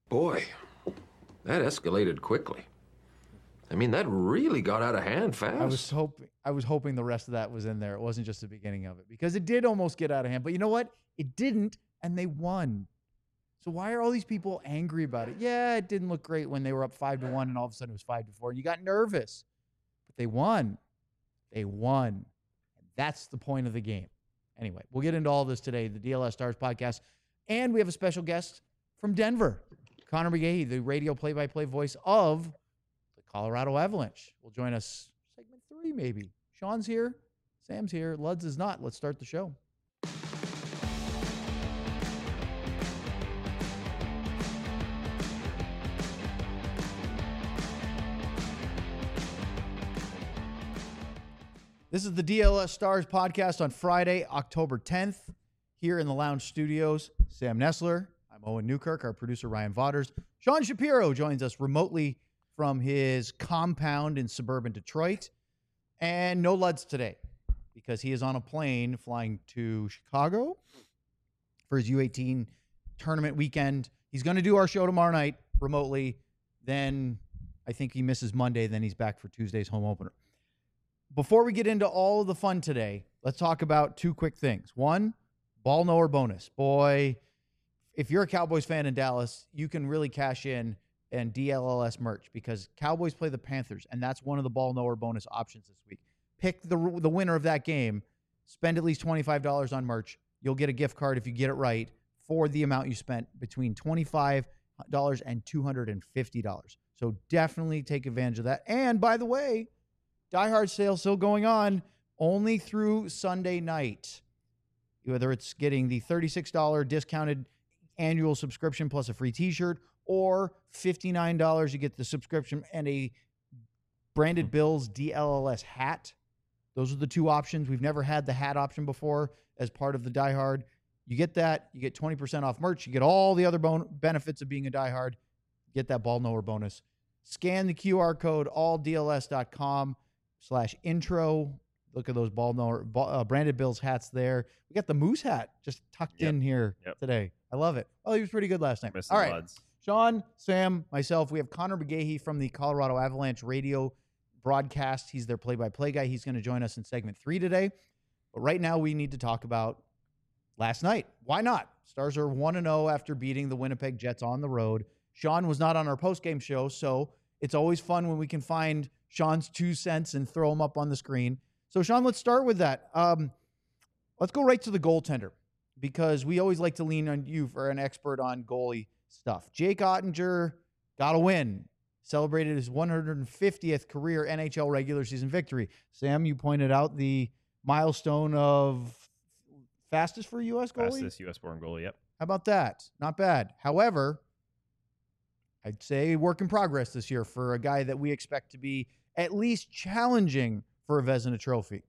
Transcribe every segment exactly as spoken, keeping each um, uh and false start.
Boy, that escalated quickly. I mean, that really got out of hand fast. I was hoping I was hoping the rest of that was in there. It wasn't just the beginning of it, because it did almost get out of hand. But you know what? It didn't, and they won. So why are all these people angry about it? Yeah, it didn't look great when they were up five to one, and all of a sudden it was five to four, and you got nervous. But they won. They won. And that's the point of the game. Anyway, we'll get into all this today, the D L S Stars podcast, and we have a special guest from Denver, Connor McGahey, the radio play-by-play voice of the Colorado Avalanche, will join us segment three, maybe. Sean's here. Sam's here. Luds is not. Let's start the show. This is the D L S Stars podcast on Friday, October tenth, here in the Lounge Studios. Sam Nessler. I'm Owen Newkirk. Our producer, Ryan Vaughters. Sean Shapiro joins us remotely from his compound in suburban Detroit. And no Luds today, because he is on a plane flying to Chicago for his U eighteen tournament weekend. He's going to do our show tomorrow night remotely. Then I think he misses Monday. Then he's back for Tuesday's home opener. Before we get into all of the fun today, let's talk about two quick things. One, ball knower bonus. Boy, if you're a Cowboys fan in Dallas, you can really cash in and D L L S merch, because Cowboys play the Panthers, and that's one of the ball knower bonus options this week. Pick the the winner of that game, spend at least twenty-five dollars on merch. You'll get a gift card if you get it right for the amount you spent, between twenty-five dollars and two hundred fifty dollars. So definitely take advantage of that. And by the way, Die Hard sale still going on only through Sunday night. Whether it's getting the thirty-six dollars discounted annual subscription plus a free t-shirt, or fifty-nine dollars, you get the subscription and a branded Bills D L L S hat. Those are the two options. We've never had the hat option before as part of the Die Hard. You get that, you get twenty percent off merch, you get all the other bon- benefits of being a Die Hard, get that ball knower bonus. Scan the Q R code, all D L S dot com slash intro. Look at those ball knower, ball, uh, branded Bills hats there. We got the Moose hat just tucked yep. in here yep. today. I love it. Oh, he was pretty good last night. Missing all right. Luds. Sean, Sam, myself, we have Connor McGahey from the Colorado Avalanche radio broadcast. He's their play-by-play guy. He's going to join us in segment three today. But right now we need to talk about last night. Why not? Stars are one and oh after beating the Winnipeg Jets on the road. Sean was not on our post-game show, so it's always fun when we can find Sean's two cents and throw them up on the screen. So, Sean, let's start with that. Um, let's go right to the goaltender, because we always like to lean on you for an expert on goalie stuff. Jake Oettinger got a win, celebrated his one hundred fiftieth career N H L regular season victory. Sam, you pointed out the milestone of fastest for a U S goalie? Fastest U S-born goalie, yep. How about that? Not bad. However, I'd say work in progress this year for a guy that we expect to be at least challenging for a Vezina trophy.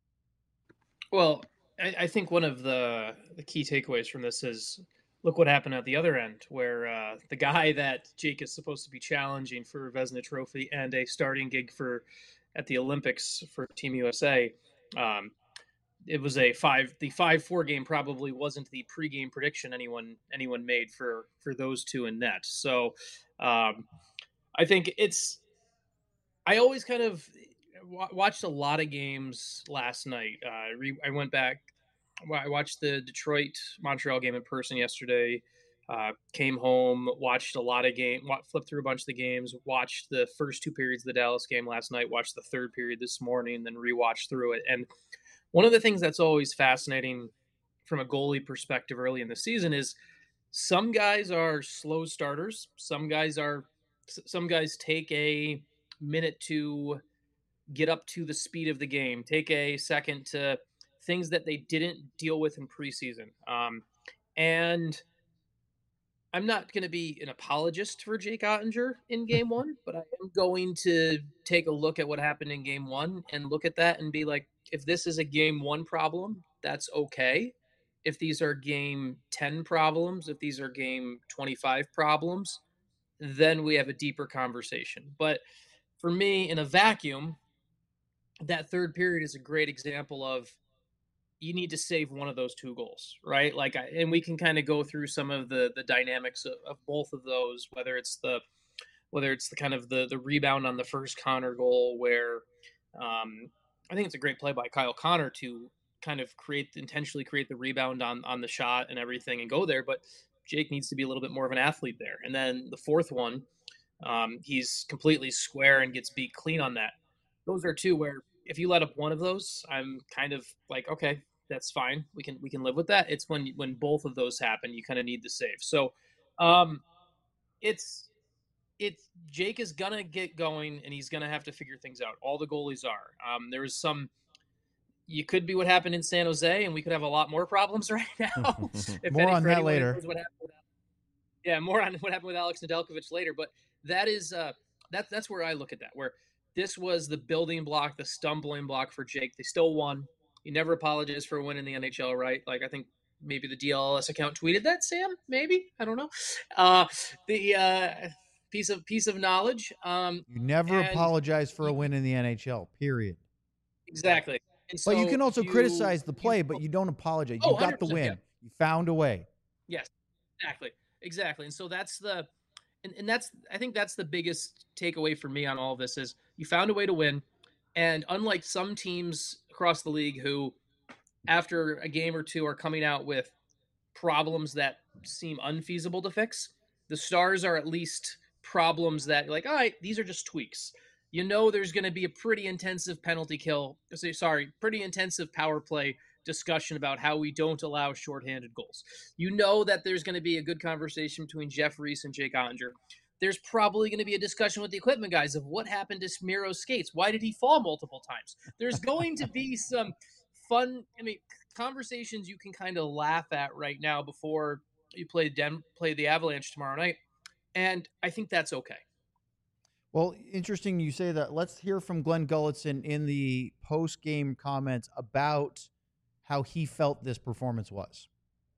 Well, I, I think one of the, the key takeaways from this is look what happened at the other end, where uh, the guy that Jake is supposed to be challenging for a Vezina trophy and a starting gig for at the Olympics for Team U S A, um, it was a five. The five four game probably wasn't the pregame prediction anyone anyone made for for those two in net. So um, I think it's. I always kind of w- watched a lot of games last night. Uh, re- I went back. I watched the Detroit Montreal game in person yesterday. Uh, came home, watched a lot of game, flipped through a bunch of the games, watched the first two periods of the Dallas game last night, watched the third period this morning, then rewatched through it. And one of the things that's always fascinating from a goalie perspective early in the season is some guys are slow starters. Some guys are, some guys take a minute to get up to the speed of the game, take a second to things that they didn't deal with in preseason. Um, and I'm not going to be an apologist for Jake Oettinger in game one, but I am going to take a look at what happened in game one and look at that and be like, if this is a game one problem, that's okay. If these are game ten problems, if these are game twenty-five problems, then we have a deeper conversation. But for me, in a vacuum, that third period is a great example of you need to save one of those two goals, right? Like, I, and we can kind of go through some of the the dynamics of, of both of those, whether it's the whether it's the kind of the the rebound on the first Connor goal, where um, I think it's a great play by Kyle Connor to kind of create intentionally create the rebound on on the shot and everything and go there, but Jake needs to be a little bit more of an athlete there. And then the fourth one, um, he's completely square and gets beat clean on that. Those are two where if you let up one of those, I'm kind of like, okay, that's fine. We can we can live with that. It's when when both of those happen, you kind of need to save. So, um, it's it's Jake is gonna get going, and he's gonna have to figure things out. All the goalies are. Um, there was some. You could be what happened in San Jose, and we could have a lot more problems right now. if more any, on that later. What happened, yeah, more on what happened with Alex Nedeljkovic later. But that is uh, that that's where I look at that. Where this was the building block, the stumbling block for Jake. They still won. He never apologized for a win in the N H L, right? Like, I think maybe the D L S account tweeted that, Sam. Maybe, I don't know. Uh, the uh, piece of piece of knowledge. Um, you never apologize for a win in the N H L. Period. Exactly. And so but you can also you, criticize the play, you, but you don't apologize. Oh, you got the win. Yeah. You found a way. Yes, exactly. Exactly. And so that's the and, and that's I think that's the biggest takeaway for me on all of this is you found a way to win. And unlike some teams across the league who after a game or two are coming out with problems that seem unfeasible to fix, the Stars are at least problems that like, all right, these are just tweaks. You know there's going to be a pretty intensive penalty kill, sorry, pretty intensive power play discussion about how we don't allow shorthanded goals. You know that there's going to be a good conversation between Jeff Reese and Jake Ottinger. There's probably going to be a discussion with the equipment guys of what happened to Smiro's skates. Why did he fall multiple times? There's going to be some fun, I mean, conversations you can kind of laugh at right now before you play, Den- play the Avalanche tomorrow night. And I think that's okay. Well, interesting you say that. Let's hear from Glenn Gulutzan in the post-game comments about how he felt this performance was.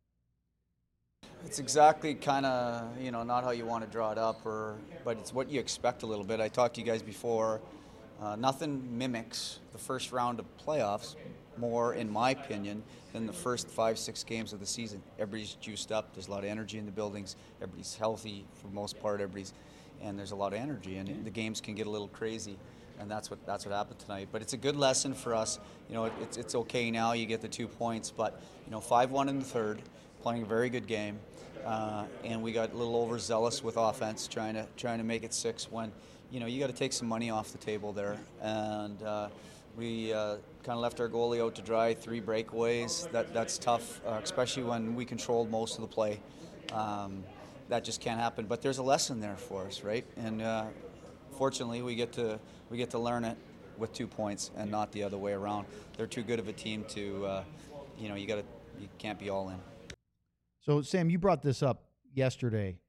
It's exactly kind of, you know, not how you want to draw it up, or but it's what you expect a little bit. I talked to you guys before. Uh, nothing mimics the first round of playoffs more, in my opinion, than the first five, six games of the season. Everybody's juiced up. There's a lot of energy in the buildings. Everybody's healthy for the most part. Everybody's and there's a lot of energy, and the games can get a little crazy, and that's what that's what happened tonight. But it's a good lesson for us. You know, it, it's it's okay now. You get the two points, but you know, five one in the third, playing a very good game, uh, and we got a little overzealous with offense, trying to trying to make it six when, you know, you got to take some money off the table there, and uh, we uh, kind of left our goalie out to dry. Three breakaways. That that's tough, uh, especially when we controlled most of the play. Um, That just can't happen, but there's a lesson there for us, right? And uh, fortunately, we get to we get to learn it with two points and not the other way around. They're too good of a team to, uh, you know, you got to you can't be all in. So, Sam, you brought this up yesterday.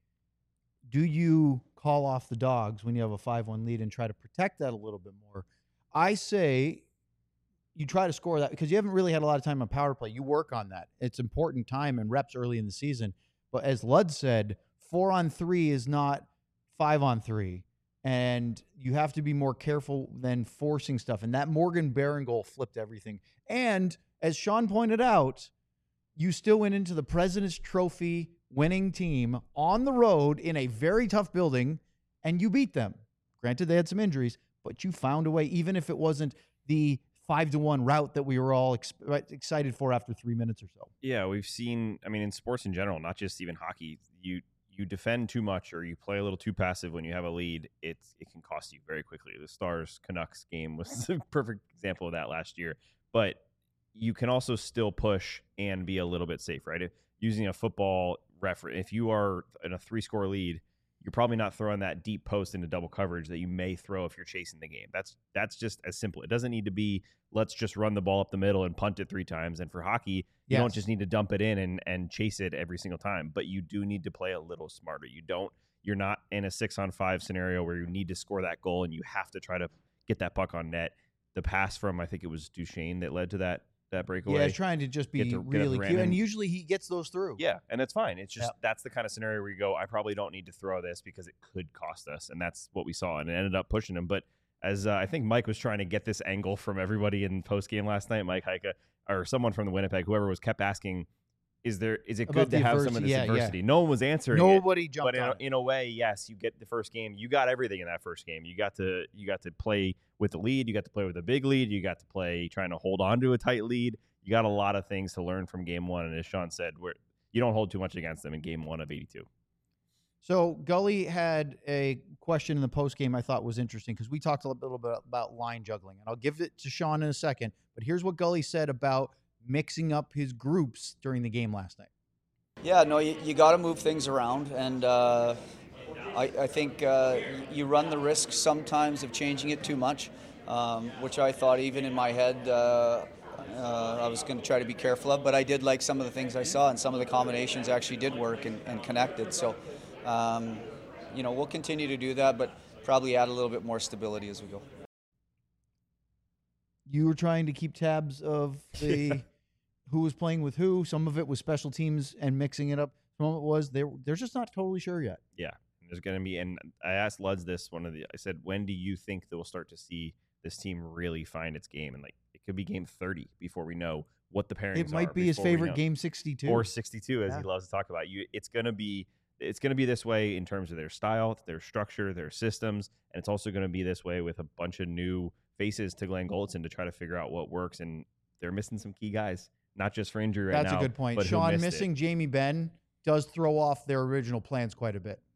Do you call off the Dogs when you have a five one lead and try to protect that a little bit more? I say you try to score that because you haven't really had a lot of time on power play. You work on that. It's important time and reps early in the season. But as Lud said, four on three is not five on three. And you have to be more careful than forcing stuff. And that Morgan Barron goal flipped everything. And as Sean pointed out, you still went into the President's Trophy winning team on the road in a very tough building, and you beat them. Granted, they had some injuries, but you found a way, even if it wasn't the five to one route that we were all ex- excited for after three minutes or so. Yeah, we've seen, I mean, in sports in general, not just even hockey, you you defend too much or you play a little too passive when you have a lead, it's, it can cost you very quickly. The Stars-Canucks game was a perfect example of that last year. But you can also still push and be a little bit safe, right? If, using a football reference, if you are in a three-score lead, you're probably not throwing that deep post into double coverage that you may throw if you're chasing the game. That's that's just as simple. It doesn't need to be, let's just run the ball up the middle and punt it three times. And for hockey, you yes. don't just need to dump it in and, and chase it every single time, but you do need to play a little smarter. You don't, you're not in a six on five scenario where you need to score that goal and you have to try to get that puck on net. The pass from, I think it was Duchesne that led to that that breakaway. Yeah, he's trying to just be to, really cute, and usually he gets those through. Yeah, and it's fine. It's just yep. that's the kind of scenario where you go, I probably don't need to throw this because it could cost us, and that's what we saw, and it ended up pushing him. But as uh, I think Mike was trying to get this angle from everybody in post game last night, Mike Heika, or someone from the Winnipeg, whoever was, kept asking, "Is there is it About good the to have some of adversity, this yeah, yeah. adversity?" No one was answering it. Nobody jumped But in on a, it. in a way, yes, you get the first game. You got everything in that first game. You got to you got to play with the lead. You got to play with a big lead. You got to play trying to hold on to a tight lead. You got a lot of things to learn from game one. And as Sean said, where you don't hold too much against them in game one of eighty-two. So Gully had a question in the post game I thought was interesting because we talked a little bit about line juggling, and I'll give it to Sean in a second. But here's what Gully said about mixing up his groups during the game last night. Yeah, no, you, you got to move things around, and uh, I, I think uh, you run the risk sometimes of changing it too much, um, which I thought even in my head uh, uh, I was going to try to be careful of, but I did like some of the things I saw, and some of the combinations actually did work and, and connected. So, um, you know, we'll continue to do that, but probably add a little bit more stability as we go. You were trying to keep tabs of the who was playing with who. Some of it was special teams and mixing it up. Some of it was they're they're just not totally sure yet. Yeah, there's going to be, and I asked Luds this one of the. I said, when do you think that we'll start to see this team really find its game? And like, it could be game thirty before we know what the pairings are. It might be his before we favorite know. game sixty-two or sixty-two, as Yeah. he loves to talk about. You, it's going to be. It's going to be this way in terms of their style, their structure, their systems, and it's also going to be this way with a bunch of new faces to Glenn Gulletson to try to figure out what works. And they're missing some key guys, not just for injury right That's now. a good point. But who Sean missed missing it. Jamie Benn does throw off their original plans quite a bit.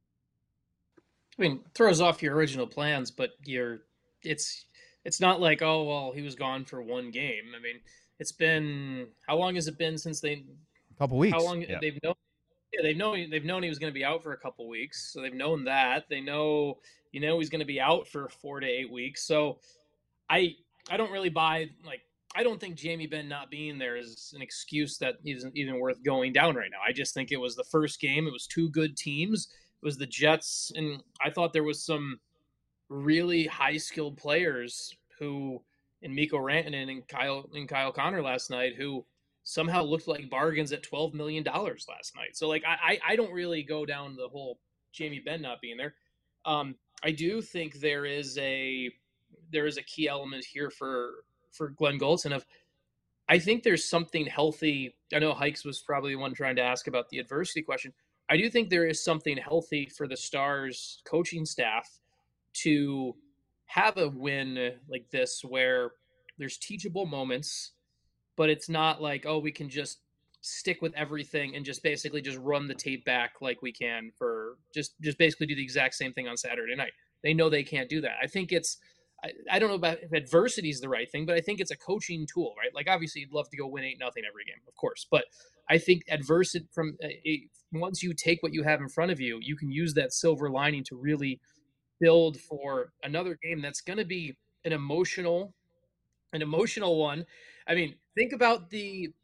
I mean, throws off your original plans, but you're it's it's not like, oh well, he was gone for one game. I mean, it's been how long has it been since they A couple weeks. how long Yeah. they've known yeah, they've known they've known he was going to be out for a couple weeks. So they've known that. They know you know he's going to be out for four to eight weeks. So I I don't really buy like I don't think Jamie Benn not being there is an excuse that isn't even worth going down right now. I just think it was the first game. It was two good teams. It was the Jets, and I thought there was some really high skilled players who, in Mikko Rantanen and Kyle and Kyle Connor last night, who somehow looked like bargains at twelve million dollars last night. So like I I don't really go down the whole Jamie Benn not being there. Um, I do think there is a there is a key element here for for Glenn Gulletson of I think there's something healthy. I know Hikes was probably the one trying to ask about the adversity question. I do think there is something healthy for the Stars coaching staff to have a win like this where there's teachable moments, but it's not like, oh, we can just stick with everything and just basically just run the tape back like we can for just just basically do the exact same thing on Saturday night. They know they can't do that. I think it's I, I don't know about if adversity is the right thing, but I think it's a coaching tool, right? Like obviously you'd love to go win eight nothing every game, of course, but I think adversity from a, once you take what you have in front of you, you can use that silver lining to really build for another game that's going to be an emotional, an emotional one. I mean, think about the.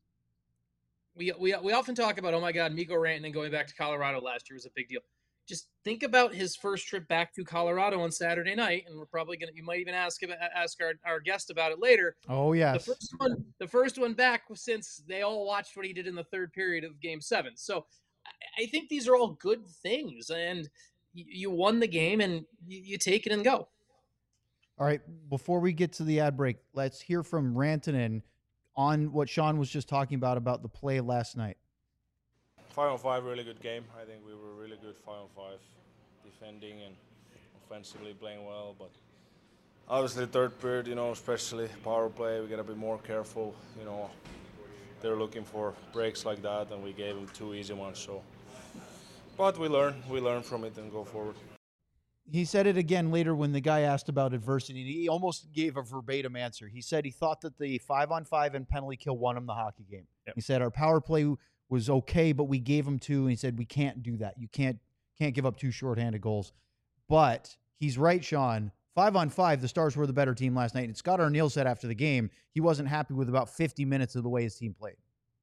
We, we we often talk about, oh my God, Mikko Rantanen going back to Colorado last year was a big deal. Just think about his first trip back to Colorado on Saturday night, and we're probably gonna. You might even ask ask our, our guest about it later. Oh yes. The first one, the first one back was since they all watched what he did in the third period of Game Seven. So I, I think these are all good things, and you, you won the game, and you, you take it and go. All right, before we get to the ad break, let's hear from Rantanen on what Sean was just talking about, about the play last night. Five on five, really good game. I think we were really good five on five, defending and offensively playing well. But obviously, third period, you know, especially power play, we got to be more careful. You know, they're looking for breaks like that, and we gave them two easy ones. So, but we learn, we learn from it and go forward. He said it again later when the guy asked about adversity. He almost gave a verbatim answer. He said he thought that the five on five and penalty kill won him the hockey game. Yep. He said our power play was okay, but we gave him two. And he said we can't do that. You can't can't give up two shorthanded goals. But he's right, Sean. Five on five, the Stars were the better team last night. And Scott Arniel said after the game he wasn't happy with about fifty minutes of the way his team played.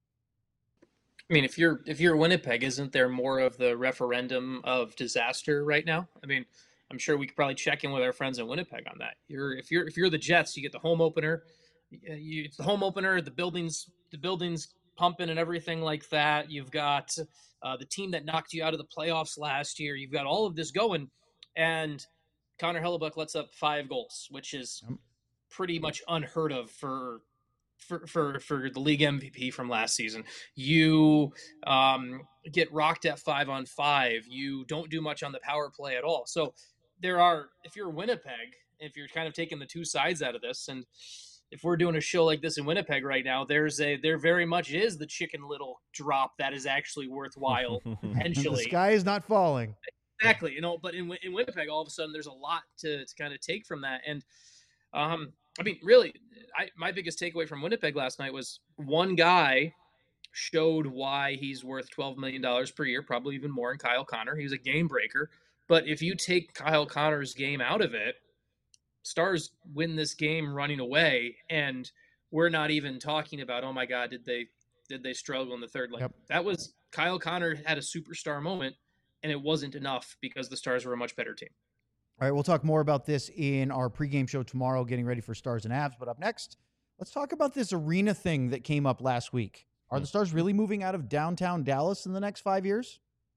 I mean, if you're if you're Winnipeg, isn't there more of the referendum of disaster right now? I mean, I'm sure we could probably check in with our friends in Winnipeg on that. You're if you're if you're the Jets, you get the home opener. You, it's the home opener. The buildings the buildings pumping and everything like that. You've got uh, the team that knocked you out of the playoffs last year. You've got all of this going, and Connor Hellebuck lets up five goals, which is pretty much unheard of for for, for, for the league M V P from last season. You um, get rocked at five on five. You don't do much on the power play at all. So there are, if you're Winnipeg, if you're kind of taking the two sides out of this, and if we're doing a show like this in Winnipeg right now, there's a, there very much is the Chicken Little drop that is actually worthwhile potentially. The sky is not falling. Exactly. You know, but in, in Winnipeg, all of a sudden there's a lot to, to kind of take from that. And, um, I mean, really, I, my biggest takeaway from Winnipeg last night was one guy showed why he's worth twelve million dollars per year, probably even more in Kyle Connor. He was a game breaker. But if you take Kyle Connor's game out of it, Stars win this game running away, and we're not even talking about, oh my God, did they did they struggle in the third? Like Yep. That was Kyle Connor had a superstar moment, and it wasn't enough because the Stars were a much better team. All right, we'll talk more about this in our pregame show tomorrow, getting ready for Stars and Avs. But up next, let's talk about this arena thing that came up last week. Are the Stars really moving out of downtown Dallas in the next five years?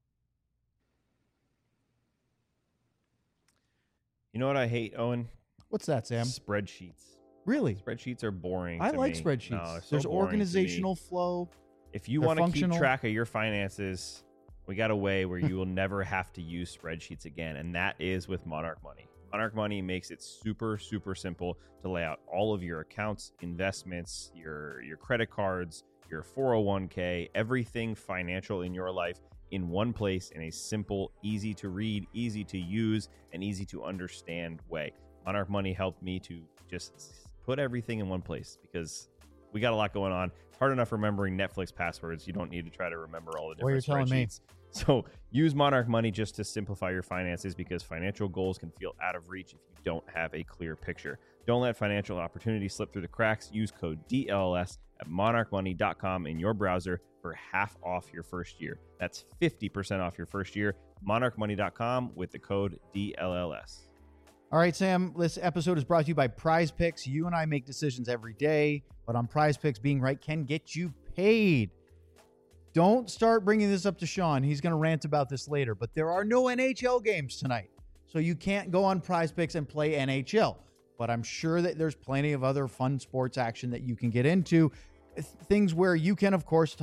You know what I hate, Owen? What's that, Sam? Spreadsheets. Really? Spreadsheets are boring. I to like me. spreadsheets. No, they're so There's boring to me. organizational flow. If you They're want to keep functional. track of your finances, we got a way where you will never have to use spreadsheets again, and that is with Monarch Money. Monarch Money makes it super, super simple to lay out all of your accounts, investments, your your credit cards, your four oh one k, everything financial in your life in one place in a simple, easy to read, easy to use, and easy to understand way. Monarch Money helped me to just put everything in one place because we got a lot going on. It's hard enough remembering Netflix passwords. You don't need to try to remember all the Well, different you're telling me. spreadsheets. So use Monarch Money just to simplify your finances because financial goals can feel out of reach if you don't have a clear picture. Don't let financial opportunities slip through the cracks. Use code D L L S at monarch money dot com in your browser for half off your first year. That's fifty percent off your first year. monarch money dot com with the code D L L S. All right, Sam, this episode is brought to you by Prize Picks. You and I make decisions every day, but on Prize Picks, being right can get you paid. Don't start bringing this up to Sean. He's going to rant about this later, but there are no N H L games tonight, so you can't go on Prize Picks and play N H L. But I'm sure that there's plenty of other fun sports action that you can get into. Things where you can, of course, t-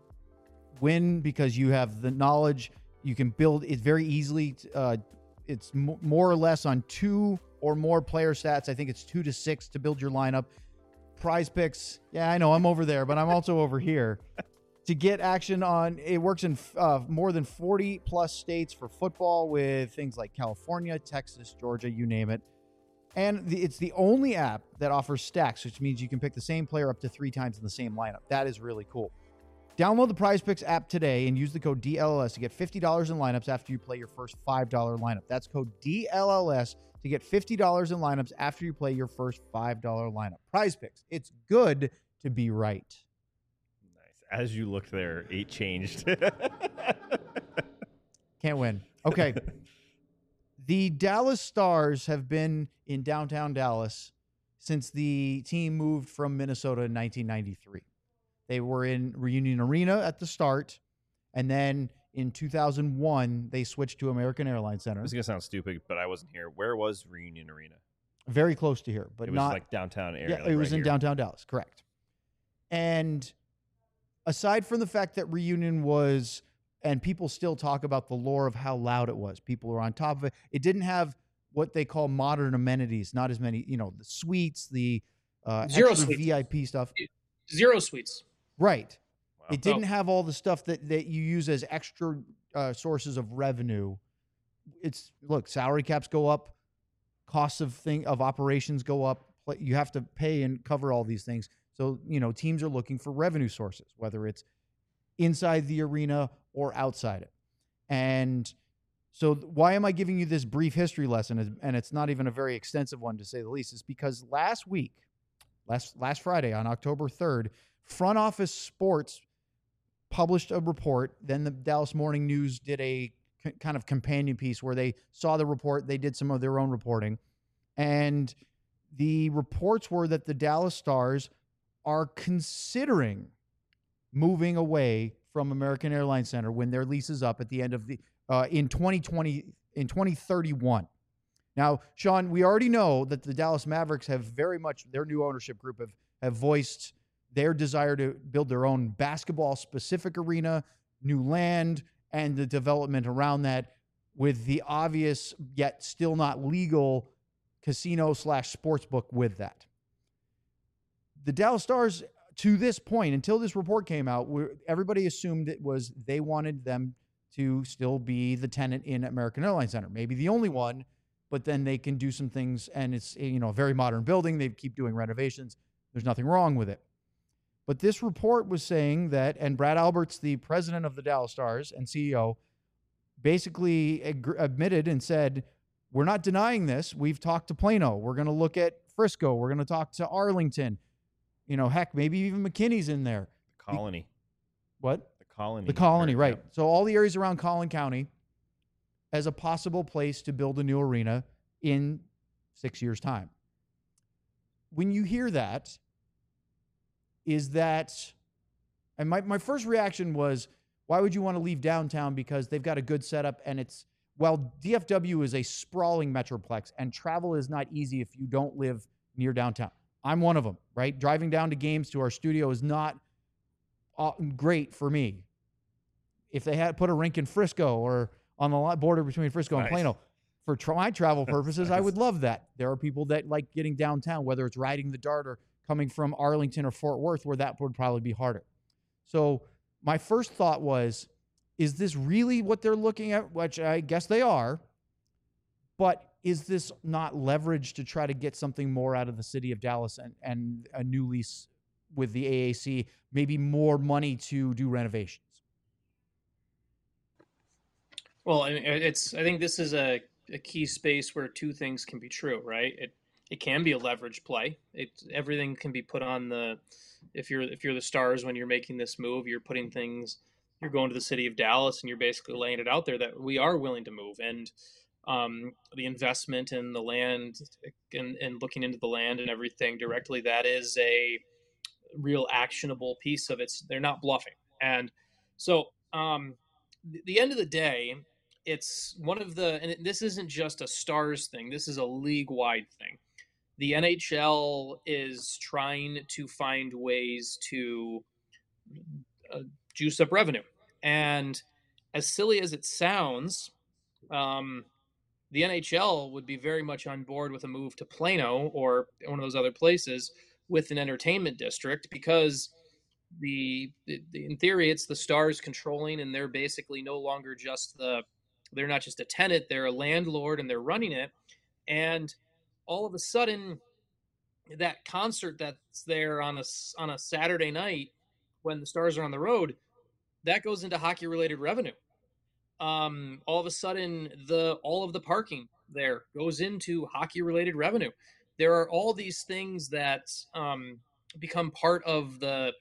win because you have the knowledge. You can build it very easily. Uh, it's m- more or less on two or more player stats. I think it's two to six to build your lineup. Prize Picks. Yeah, I know I'm over there, but I'm also over here. To get action on, it works in uh, more than forty plus states for football with things like California, Texas, Georgia, you name it. And the, it's the only app that offers stacks, which means you can pick the same player up to three times in the same lineup. That is really cool. Download the Prize Picks app today and use the code D L L S to get fifty dollars in lineups after you play your first five dollars lineup. That's code D L L S to get fifty dollars in lineups after you play your first five dollars lineup. Prize Picks. It's good to be right. Nice. As you looked there, eight changed. Can't win. Okay. The Dallas Stars have been in downtown Dallas since the team moved from Minnesota in nineteen ninety-three. They were in Reunion Arena at the start, and then in two thousand one, they switched to American Airlines Center. This is going to sound stupid, but I wasn't here. Where was Reunion Arena? Very close to here, but It was not like downtown area. Yeah, like it was right in here. downtown Dallas, correct. And aside from the fact that Reunion was, and people still talk about the lore of how loud it was, people are on top of it. It didn't have what they call modern amenities, not as many, you know, the suites, the uh, Zero extra suites. V I P stuff. Zero suites. Right. Wow. It didn't Oh. have all the stuff that, that you use as extra uh, sources of revenue. It's look, salary caps go up, costs of thing of operations go up. pl- You have to pay and cover all these things. So, you know, teams are looking for revenue sources, whether it's inside the arena or outside it. And so why am I giving you this brief history lesson? And it's not even a very extensive one, to say the least. Is because last week, last last Friday on October third, Front Office Sports published a report. Then the Dallas Morning News did a c- kind of companion piece where they saw the report. They did some of their own reporting. And the reports were that the Dallas Stars are considering moving away from American Airlines Center when their lease is up at the end of the uh, in twenty twenty in twenty thirty-one. Now, Sean, we already know that the Dallas Mavericks have very much, their new ownership group have have voiced their desire to build their own basketball-specific arena, new land, and the development around that with the obvious yet still not legal casino slash sportsbook with that. The Dallas Stars, to this point, until this report came out, were, everybody assumed it was they wanted them to still be the tenant in American Airlines Center. Maybe the only one, but then they can do some things, and it's, you know, a very modern building. They keep doing renovations. There's nothing wrong with it. But this report was saying that, and Brad Alberts, the president of the Dallas Stars and C E O, basically ag- admitted and said, we're not denying this. We've talked to Plano. We're going to look at Frisco. We're going to talk to Arlington. You know, heck, maybe even McKinney's in there. The Colony. The, what? The Colony. The Colony, right. Yep. So all the areas around Collin County as a possible place to build a new arena in six years' time. When you hear that, is that, and my, my first reaction was, why would you want to leave downtown? Because they've got a good setup, and it's, well, D F W is a sprawling metroplex, and travel is not easy if you don't live near downtown. I'm one of them, right? Driving down to games to our studio is not uh, great for me. If they had put a rink in Frisco or on the border between Frisco Nice. and Plano, for tra- my travel purposes, Nice. I would love that. There are people that like getting downtown, whether it's riding the Dart or coming from Arlington or Fort Worth, where that would probably be harder. So my first thought was, is this really what they're looking at? Which I guess they are. But is this not leverage to try to get something more out of the city of Dallas and, and a new lease with the A A C, maybe more money to do renovations? Well, I mean, it's. I think this is a, a key space where two things can be true, right? It it can be a leverage play. It everything can be put on the. If you're if you're the Stars when you're making this move, you're putting things. You're going to the city of Dallas and you're basically laying it out there that we are willing to move, and um, the investment in the land and, and looking into the land and everything directly, that is a real actionable piece of it. They're not bluffing. And so um, the, the end of the day, it's one of the, and this isn't just a Stars thing. This is a league-wide thing. The N H L is trying to find ways to uh, juice up revenue. And as silly as it sounds, um, the N H L would be very much on board with a move to Plano or one of those other places with an entertainment district, because the, the, the in theory, it's the Stars controlling, and they're basically no longer just the, they're not just a tenant, they're a landlord and they're running it. And all of a sudden, that concert that's there on a, on a Saturday night when the Stars are on the road, that goes into hockey-related revenue. Um, all of a sudden, the all of the parking there goes into hockey-related revenue. There are all these things that um, become part of the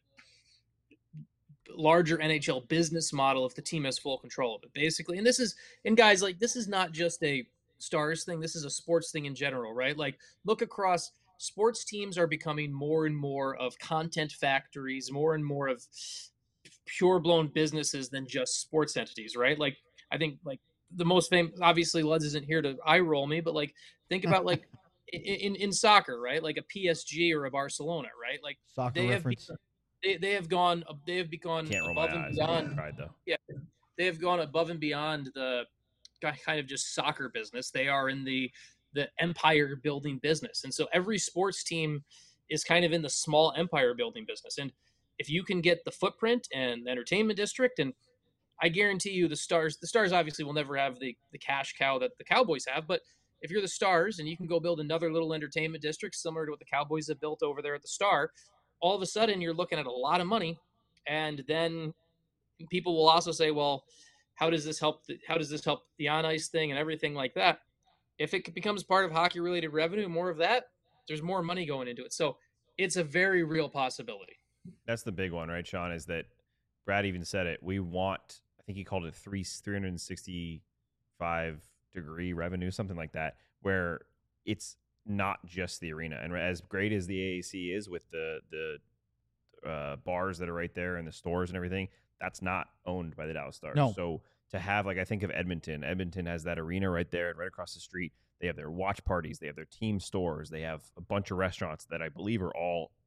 larger N H L business model if the team has full control of it, basically. And this is, and guys, like, this is not just a Stars thing. This is a sports thing in general, right? Like, look across. Sports teams are becoming more and more of content factories, more and more of pure blown businesses than just sports entities, right? Like, I think like the most famous, obviously Luds isn't here to eye roll me, but like, think about like in, in, in soccer, right? Like a P S G or a Barcelona, right? Like Soccer they reference. have, they, they have gone, they have gone Can't roll above my and eyes. beyond. I tried though. Yeah. They have gone above and beyond the kind of just soccer business. They are in the, the empire building business. And so every sports team is kind of in the small empire building business. And if you can get the footprint and the entertainment district, and I guarantee you the Stars, the Stars obviously will never have the, the cash cow that the Cowboys have, but if you're the Stars and you can go build another little entertainment district similar to what the Cowboys have built over there at the Star, all of a sudden you're looking at a lot of money. And then people will also say, well, how does this help? The, how does this help the on ice thing and everything like that? If it becomes part of hockey related revenue, more of that, there's more money going into it. So it's a very real possibility. That's the big one, right, Sean, is that Brad even said it. We want, I think he called it three, three hundred sixty-five degree revenue, something like that, where it's not just the arena. And as great as the A A C is with the, the uh, bars that are right there and the stores and everything, that's not owned by the Dallas Stars. No. So to have, like, I think of Edmonton. Edmonton has that arena right there and right across the street. They have their watch parties. They have their team stores. They have a bunch of restaurants that I believe are all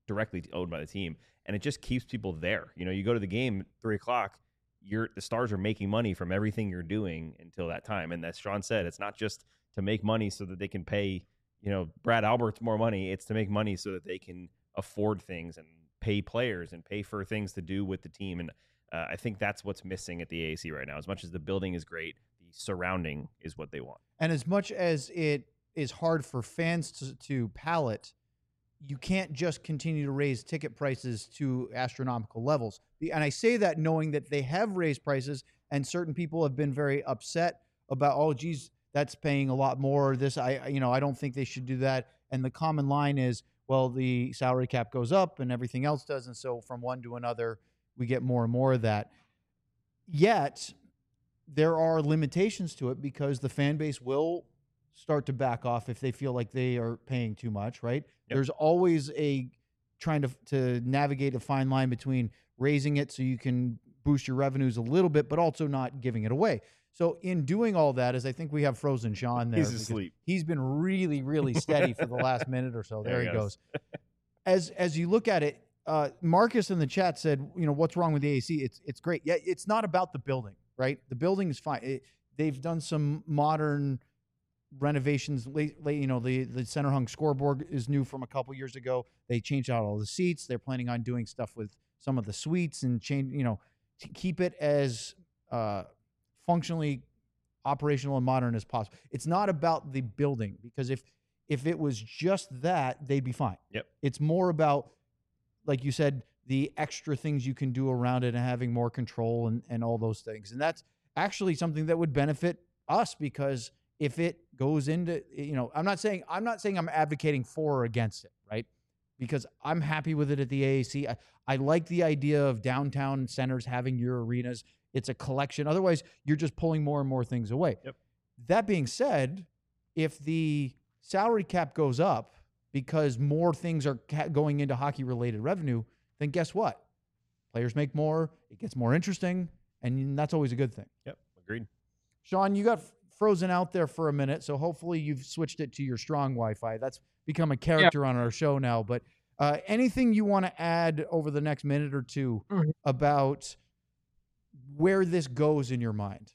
directly owned by the team, and it just keeps people there. You know, you go to the game at three o'clock, you're the Stars are making money from everything you're doing until that time. And as Sean said, it's not just to make money so that they can pay, you know, Brad Alberts more money. It's to make money so that they can afford things and pay players and pay for things to do with the team. And uh, I think that's what's missing at the A A C right now. As much as the building is great, the surrounding is what they want. And as much as it is hard for fans to, to palate, you can't just continue to raise ticket prices to astronomical levels. And I say that knowing that they have raised prices, and certain people have been very upset about, oh, geez, that's paying a lot more. This, I, you know, I don't think they should do that. And the common line is, well, the salary cap goes up and everything else does. And so from one to another, we get more and more of that. Yet there are limitations to it because the fan base will start to back off if they feel like they are paying too much, right? Yep. There's always a trying to to navigate a fine line between raising it so you can boost your revenues a little bit, but also not giving it away. So in doing all that, as I think we have frozen Sean there. He's asleep. He's been really, really steady for the last minute or so. There, there he goes. goes. As as you look at it, uh, Marcus in the chat said, you know, what's wrong with the A A C? It's it's great. Yeah, it's not about the building, right? The building is fine. It, they've done some modern renovations. Late, late, you know, the the center hung scoreboard is new from a couple years ago. They changed out all the seats. They're planning on doing stuff with some of the suites and change, you know, to keep it as uh, functionally operational and modern as possible. It's not about the building, because if if it was just that, they'd be fine. Yep. It's more about, like you said, the extra things you can do around it and having more control and, and all those things. And that's actually something that would benefit us, because if it goes into, you know, I'm not saying, I'm not saying I'm advocating for or against it, right? Because I'm happy with it at the A A C. I, I like the idea of downtown centers having your arenas. It's a collection. Otherwise, you're just pulling more and more things away. Yep. That being said, if the salary cap goes up because more things are ca- going into hockey-related revenue, then guess what? Players make more, it gets more interesting, and that's always a good thing. Yep, agreed. Sean, you got frozen out there for a minute, so hopefully you've switched it to your strong Wi-Fi. That's become a character yeah. on our show now. But uh, anything you want to add over the next minute or two mm-hmm. about where this goes in your mind?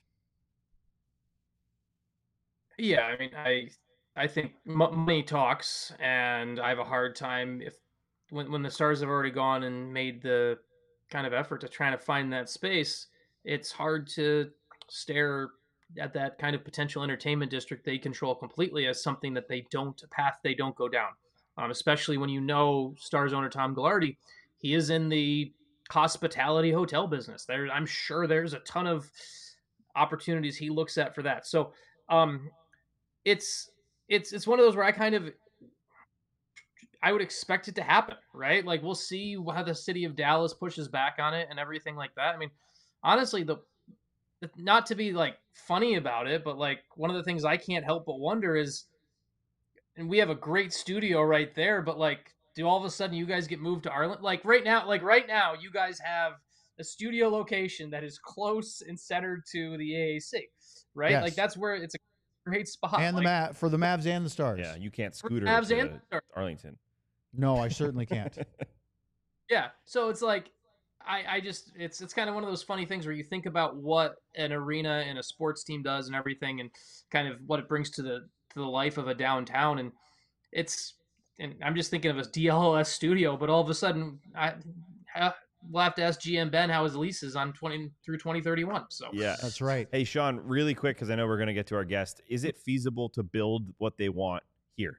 Yeah, I mean, I I think money talks, and I have a hard time if when when the Stars have already gone and made the kind of effort to try to find that space, it's hard to stare at that kind of potential entertainment district they control completely as something that they don't, a path they don't go down. Um, especially when you know Stars owner Tom Gaglardi, he is in the hospitality hotel business. There, I'm sure there's a ton of opportunities he looks at for that. So um, it's it's it's one of those where I kind of I would expect it to happen, right? Like, we'll see how the city of Dallas pushes back on it and everything like that. I mean, honestly, the not to be like funny about it, but like one of the things I can't help but wonder is, and we have a great studio right there, but like, do all of a sudden you guys get moved to Arlington? Like right now, like right now, you guys have a studio location that is close and centered to the A A C, right? Yes. Like that's where it's a great spot. And like, the Mav for the Mavs and the Stars. Yeah, you can't scooter Mavs to and the Arlington. No, I certainly can't. Yeah, so it's like, I, I just, it's it's kind of one of those funny things where you think about what an arena and a sports team does and everything, and kind of what it brings to the to the life of a downtown, and it's, and I'm just thinking of a D L S studio, but all of a sudden, I, I we'll have to ask G M Ben how his lease is on twenty through twenty thirty-one. So yeah, that's right. Hey Sean, really quick, because I know we're going to get to our guest. Is it feasible to build what they want here?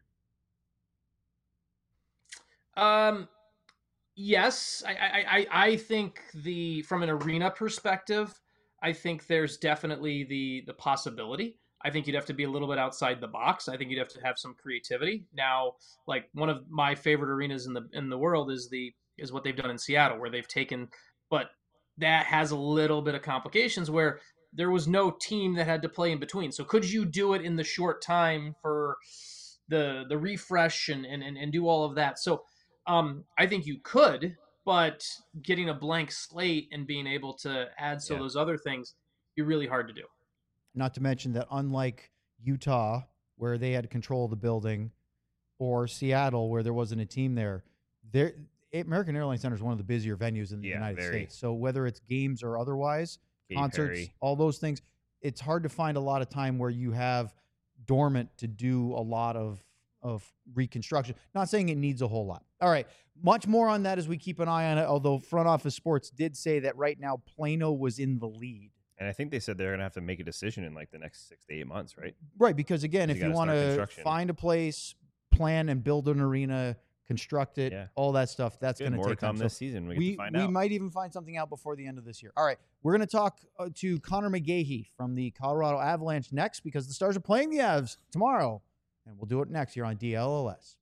Um. Yes, I, I, I, I think the from an arena perspective, I think there's definitely the the possibility. I think you'd have to be a little bit outside the box. I think you'd have to have some creativity. Now, like one of my favorite arenas in the in the world is the is what they've done in Seattle, where they've taken, but that has a little bit of complications where there was no team that had to play in between. So could you do it in the short time for the the refresh and and, and do all of that? So Um, I think you could, but getting a blank slate and being able to add so yeah. those other things, you're really hard to do. Not to mention that unlike Utah, where they had control of the building, or Seattle, where there wasn't a team there, there American Airlines Center is one of the busier venues in the Yeah, United very. States. So whether it's games or otherwise, Katy concerts, Perry. all those things, it's hard to find a lot of time where you have dormant to do a lot of of reconstruction. Not saying it needs a whole lot. All right, much more on that as we keep an eye on it. Although Front Office Sports did say that right now Plano was in the lead. And I think they said they're going to have to make a decision in like the next six to eight months, right? Right, because again, You if you gotta want start to construction. find a place, plan and build an arena, construct it, Yeah. all that stuff, that's Good. going to More to take time. come So this season. We, get we to find we out. might even find something out before the end of this year. All right, we're going to talk uh, to Connor McGahey from the Colorado Avalanche next because the Stars are playing the Avs tomorrow, and we'll do it next here on D L L S.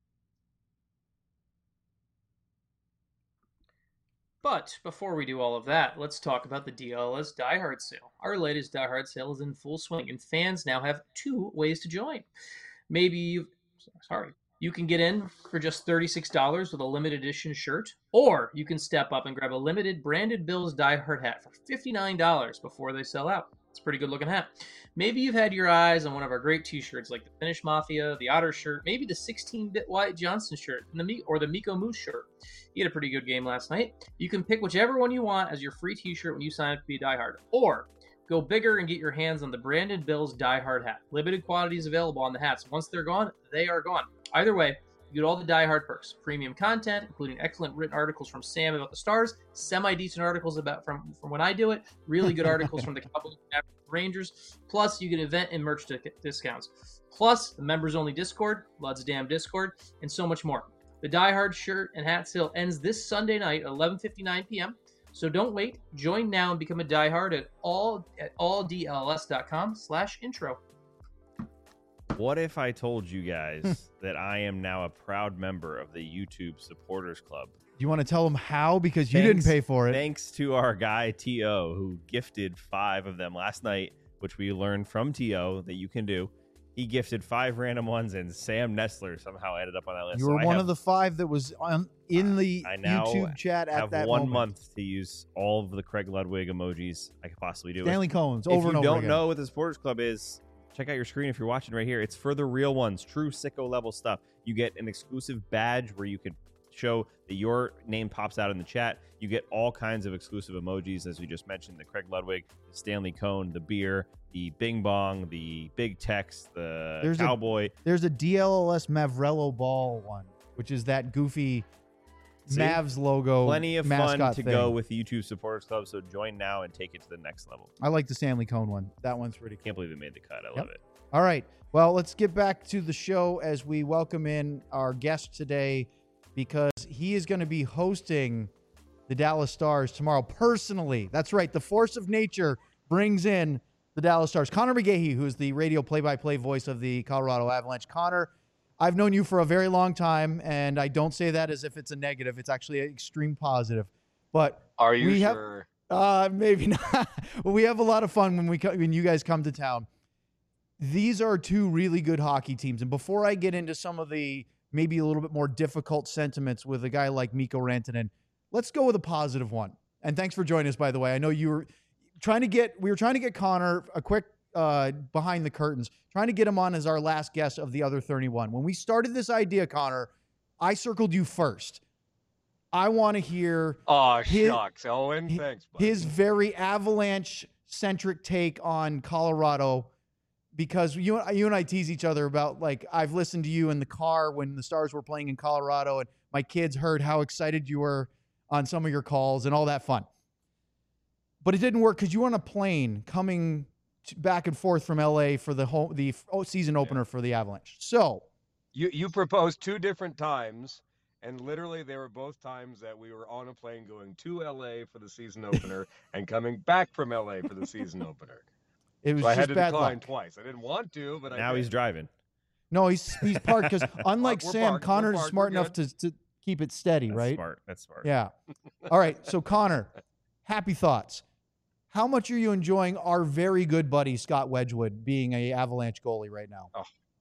But before we do all of that, let's talk about the D L L S Die Hard sale. Our latest Die Hard sale is in full swing, and fans now have two ways to join. Maybe you've, sorry, you can get in for just thirty-six dollars with a limited edition shirt, or you can step up and grab a limited branded Bills Die Hard hat for fifty-nine dollars before they sell out. It's a pretty good looking hat. Maybe you've had your eyes on one of our great t-shirts like the Finnish Mafia, the Otter shirt, maybe the sixteen-bit Wyatt Johnson shirt, and the Me- or the Miko Moose shirt. He had a pretty good game last night. You can pick whichever one you want as your free t-shirt when you sign up to be a Die Hard. Or go bigger and get your hands on the branded Bills Die Hard hat. Limited quantities available on the hats. Once they're gone, they are gone. Either way, you get all the Die Hard perks. Premium content, including excellent written articles from Sam about the Stars, semi-decent articles about from, from when I do it, really good articles from the Cowboys and Rangers. Plus, you get event and merch discounts. Plus, the members-only Discord, Lud's Damn Discord, and so much more. The Die Hard shirt and hat sale ends this Sunday night at eleven fifty-nine p.m., so don't wait. Join now and become a Die Hard at all at alldls.com slash intro. What if I told you guys that I am now a proud member of the YouTube Supporters Club? Do you want to tell them how? Because you Thanks- didn't pay for it. Thanks to our guy T O, who gifted five of them last night, which we learned from T O that you can do. He gifted five random ones, and Sam Nestler somehow ended up on that list. You So were I one have, of the five that was on, in the I now YouTube chat at have that one moment. month to use all of the Craig Ludwig emojis I could possibly do. Stanley If- Cohen's if over you and over don't again. know what the Supporters Club is, check out your screen if you're watching right here. It's for the real ones, true sicko level stuff. You get an exclusive badge where you can show that your name pops out in the chat. You get all kinds of exclusive emojis, as we just mentioned, the Craig Ludwig, the Stanley Cone, the beer, the bing bong, the big text, the There's a- cowboy. There's a D L L S Mavrello ball one, which is that goofy See? Mavs logo. Plenty of fun mascot to thing. go with the YouTube Supporters Club, so join now and take it to the next level. I like the Stanley Cone one. That one's pretty cool. Can't believe it made the cut. I Yep. love it. All right. Well, let's get back to the show as we welcome in our guest today because he is going to be hosting the Dallas Stars tomorrow personally. That's right. The force of nature brings in the Dallas Stars. Connor McGahey, who is the radio play-by-play voice of the Colorado Avalanche. Connor, I've known you for a very long time, and I don't say that as if it's a negative. It's actually an extreme positive. But Are you we have- sure? Uh, maybe not. Well, we have a lot of fun when we co- when you guys come to town. These are two really good hockey teams, and before I get into some of the maybe a little bit more difficult sentiments with a guy like Mikko Rantanen, let's go with a positive one. And thanks for joining us, by the way. I know you were trying to get we were trying to get Connor a quick uh, behind the curtains, trying to get him on as our last guest of the other thirty-one. When we started this idea, Connor, I circled you first. I want to hear Oh, his- shucks, Owen. hi- Thanks, buddy. his very Avalanche-centric take on Colorado, because you, you and I tease each other about, like, I've listened to you in the car when the Stars were playing in Colorado, and my kids heard how excited you were on some of your calls and all that fun. But it didn't work because you were on a plane coming to, back and forth from L A for the home, the oh, season opener for the Avalanche. So, You you proposed two different times, and literally they were both times that we were on a plane going to L A for the season opener and coming back from L A for the season opener. it was So I just had to bad decline luck. twice. I didn't want to, but I Now did. he's driving. No, he's he's parked because unlike We're Sam, parked, we're Connor's parked, smart we're enough to, to keep it steady, That's right? smart. That's smart. Yeah. All right. So, Connor, happy thoughts. How much are you enjoying our very good buddy Scott Wedgwood being a Avalanche goalie right now?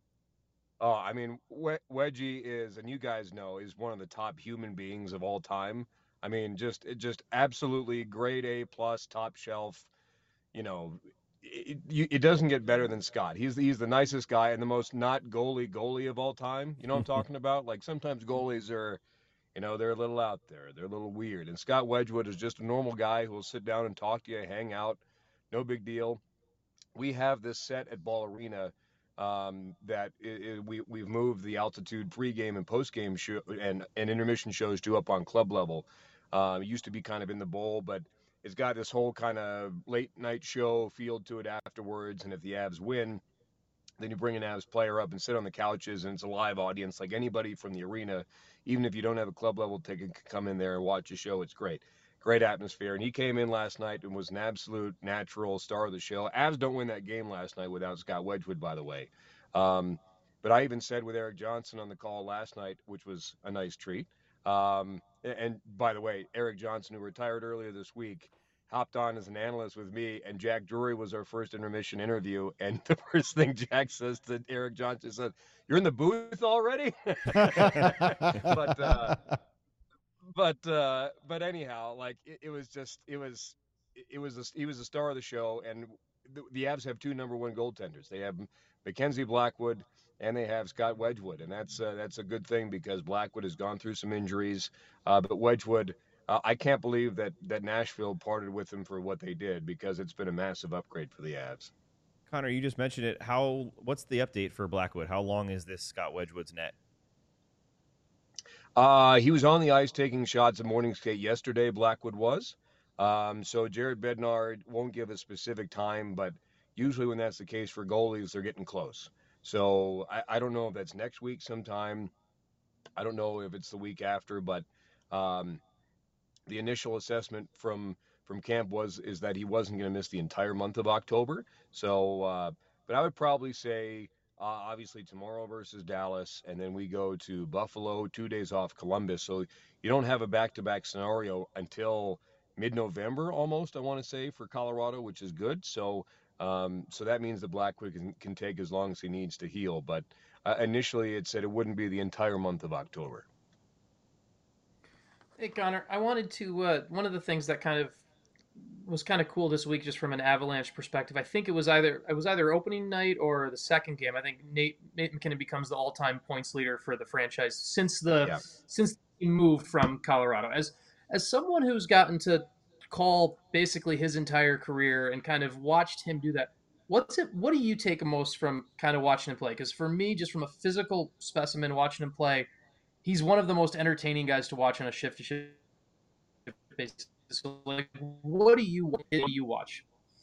Oh, I mean, We- Wedgie is, and you guys know, is one of the top human beings of all time. I mean, just just absolutely grade A plus, top shelf. You know, it, it, it doesn't get better than Scott. He's the, he's the nicest guy and the most not goalie goalie of all time. You know what I'm talking about? Like sometimes goalies are You know, they're a little out there. They're a little weird. And Scott Wedgwood is just a normal guy who will sit down and talk to you, hang out. No big deal. We have this set at Ball Arena um, that it, it, we, we've moved the altitude pregame and postgame show and, and intermission shows to up on club level. Uh, it used to be kind of in the bowl, but it's got this whole kind of late night show feel to it afterwards. And if the Avs win, then you bring an Avs player up and sit on the couches, and it's a live audience. Like anybody from the arena, even if you don't have a club level ticket, can come in there and watch a show. It's great. Great atmosphere. And he came in last night and was an absolute natural star of the show. Avs don't win that game last night without Scott Wedgwood, by the way. Um, but I even said with Erik Johnson on the call last night, which was a nice treat. Um, and, and by the way, Erik Johnson, who retired earlier this week, hopped on as an analyst with me, and Jack Drury was our first intermission interview. And the first thing Jack says to Erik Johnson said, "You're in the booth already?" but, uh, but, uh, but anyhow, like it, it was just, it was, it was, a, he was a star of the show. And the, the Avs have two number one goaltenders. They have Mackenzie Blackwood and they have Scott Wedgwood. And that's, uh, that's a good thing because Blackwood has gone through some injuries, uh, but Wedgwood, Uh, I can't believe that that Nashville parted with him for what they did because it's been a massive upgrade for the Avs. Connor, you just mentioned it. How? What's the update for Blackwood? How long is this Scott Wedgwood's net? Uh, he was on the ice taking shots at morning skate yesterday, Blackwood was. Um, so Jared Bednar won't give a specific time, but usually when that's the case for goalies, they're getting close. So I, I don't know if that's next week sometime. I don't know if it's the week after, but um, the initial assessment from from camp was is that he wasn't going to miss the entire month of October. So, uh, but I would probably say uh, obviously tomorrow versus Dallas, and then we go to Buffalo, two days off Columbus. So you don't have a back-to-back scenario until mid-November almost, I want to say, for Colorado, which is good. So um, so that means that Blackwood can, can take as long as he needs to heal. But uh, initially it said it wouldn't be the entire month of October. Hey, Connor, I wanted to, uh, one of the things that kind of was kind of cool this week, just from an Avalanche perspective, I think it was either, it was either opening night or the second game. I think Nate, Nate MacKinnon becomes the all-time points leader for the franchise since the, Yeah. since he moved from Colorado. As, as someone who's gotten to call basically his entire career and kind of watched him do that, what's it, what do you take most from kind of watching him play? Because for me, just from a physical specimen, watching him play, he's one of the most entertaining guys to watch on a shift-to-shift basis. So, like, what do you what do you watch?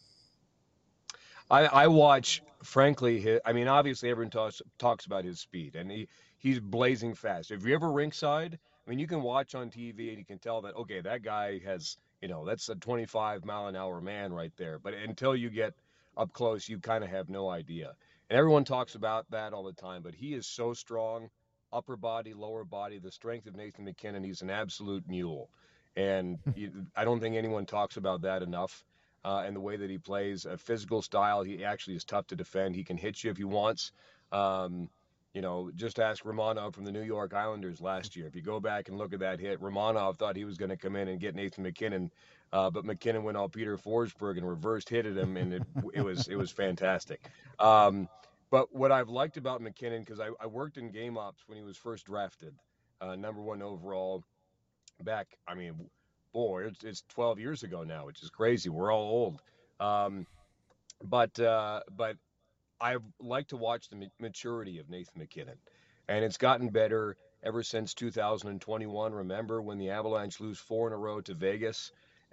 I, I watch, frankly, his, I mean, obviously everyone talks talks about his speed, and he, he's blazing fast. If you're ever rinkside, I mean, you can watch on T V and you can tell that, okay, that guy has, you know, that's a twenty-five mile an hour man right there. But until you get up close, you kind of have no idea. And everyone talks about that all the time, but he is so strong, upper body, lower body, the strength of Nathan MacKinnon. He's an absolute mule. And you, I don't think anyone talks about that enough. Uh, and the way that he plays, a physical style, he actually is tough to defend. He can hit you if he wants. Um, you know, just ask Romanov from the New York Islanders last year. If you go back and look at that hit, Romanov thought he was going to come in and get Nathan MacKinnon, uh, but MacKinnon went all Peter Forsberg and reversed hitted him, and it, it was it was fantastic. Um, but what I've liked about MacKinnon, because I, I worked in game ops when he was first drafted, uh, number one overall. Back, I mean, boy, it's, it's twelve years ago now, which is crazy. We're all old. Um, but uh, but I like to watch the maturity of Nathan MacKinnon, and it's gotten better ever since two thousand twenty-one. Remember when the Avalanche lose four in a row to Vegas,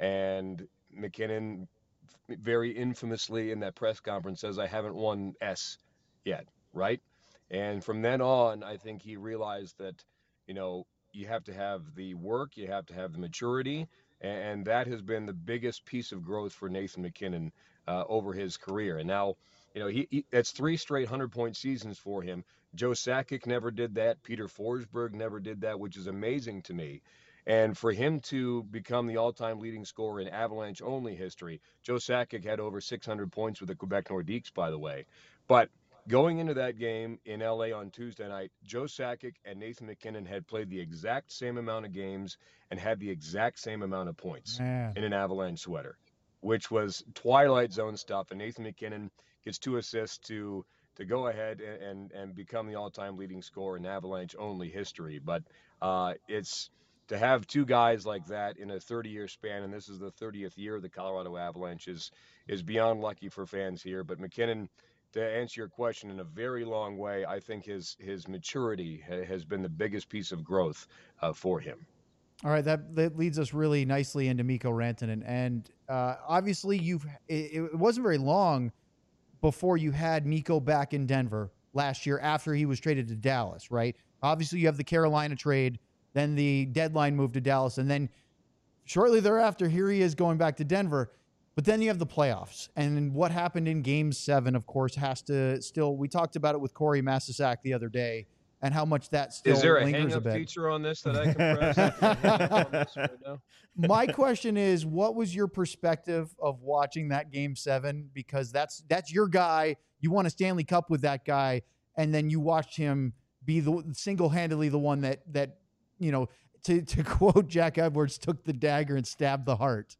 and MacKinnon very infamously in that press conference says, "I haven't won S yet," right? And from then on, I think he realized that, you know, you have to have the work, you have to have the maturity, and that has been the biggest piece of growth for Nathan MacKinnon uh, over his career. And now, you know, he, he that's three straight hundred-point seasons for him. Joe Sakic never did that. Peter Forsberg never did that, which is amazing to me. And for him to become the all-time leading scorer in Avalanche-only history, Joe Sakic had over six hundred points with the Quebec Nordiques, by the way. But going into that game in L A on Tuesday night, Joe Sakic and Nathan MacKinnon had played the exact same amount of games and had the exact same amount of points Man. in an Avalanche sweater, which was Twilight Zone stuff. And Nathan MacKinnon gets two assists to to go ahead and, and, and become the all-time leading scorer in Avalanche-only history. But uh, it's to have two guys like that in a thirty-year span, and this is the thirtieth year of the Colorado Avalanche, is, is beyond lucky for fans here. But MacKinnon, to answer your question in a very long way, I think his his maturity ha- has been the biggest piece of growth uh, for him. All right, that, that leads us really nicely into Mikko Rantanen, and uh, obviously you've it, it wasn't very long before you had Mikko back in Denver last year after he was traded to Dallas, right? Obviously you have the Carolina trade, then the deadline move to Dallas, and then shortly thereafter, here he is going back to Denver. But then you have the playoffs, and what happened in Game Seven, of course, has to still. We talked about it with Corey Masisak the other day, and how much that still Is there a lingers a hang-up bit. feature on this that I can press? I can hang up on this right now? My question is, what was your perspective of watching that Game Seven? Because that's that's your guy. You won a Stanley Cup with that guy, and then you watched him be the single-handedly the one that that you know, to to quote Jack Edwards, took the dagger and stabbed the heart.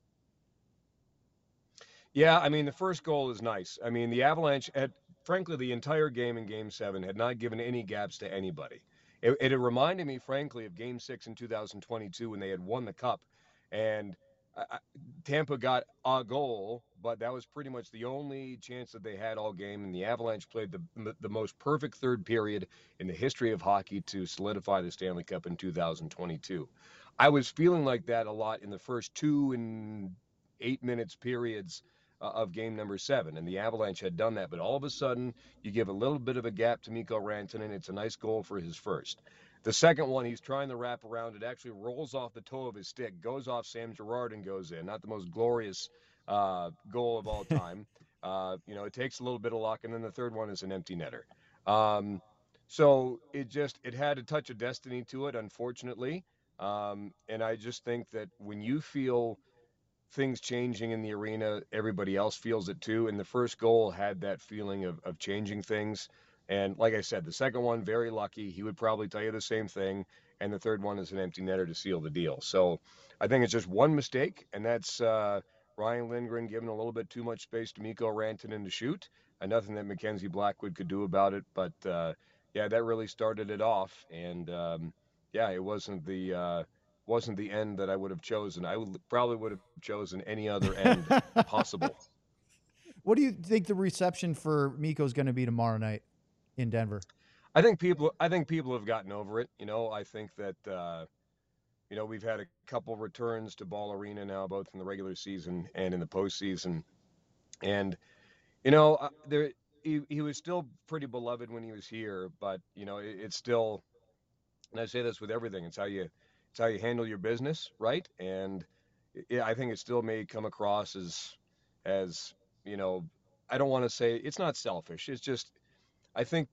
Yeah, I mean, the first goal is nice. I mean, the Avalanche, had, frankly, the entire game in Game seven had not given any gaps to anybody. It, it reminded me, frankly, of Game six in two thousand twenty-two when they had won the Cup. And I, Tampa got a goal, but that was pretty much the only chance that they had all game. And the Avalanche played the, the most perfect third period in the history of hockey to solidify the Stanley Cup in two thousand twenty-two. I was feeling like that a lot in the first two and eight minutes periods of game number seven, and the Avalanche had done that, but all of a sudden you give a little bit of a gap to Mikko Rantanen. It's a nice goal for his first. The second one, he's trying to wrap around. It actually rolls off the toe of his stick, goes off Sam Girard and goes in. Not the most glorious uh, goal of all time. uh, you know, it takes a little bit of luck, and then the third one is an empty netter. Um, so it just, it had a touch of destiny to it, unfortunately. Um, and I just think that when you feel things changing in the arena, everybody else feels it too. And the first goal had that feeling of, of changing things. And like I said, the second one, very lucky. He would probably tell you the same thing. And the third one is an empty netter to seal the deal. So I think it's just one mistake, and that's uh, Ryan Lindgren giving a little bit too much space to Mikko Rantanen to shoot, and nothing that Mackenzie Blackwood could do about it. But uh, yeah, that really started it off. And um, yeah, it wasn't the uh, wasn't the end that I would have chosen. I would probably would have chosen any other end possible. What do you think the reception for Mikko is going to be tomorrow night in Denver? I think people, I think people have gotten over it. You know, I think that, uh, you know, we've had a couple returns to Ball Arena now, both in the regular season and in the postseason. And, you know, uh, there, he, he was still pretty beloved when he was here, but, you know, it, it's still, and I say this with everything, it's how you, it's how you handle your business, right? And it, I think it still may come across as, as, you know, I don't want to say, it's not selfish. It's just, I think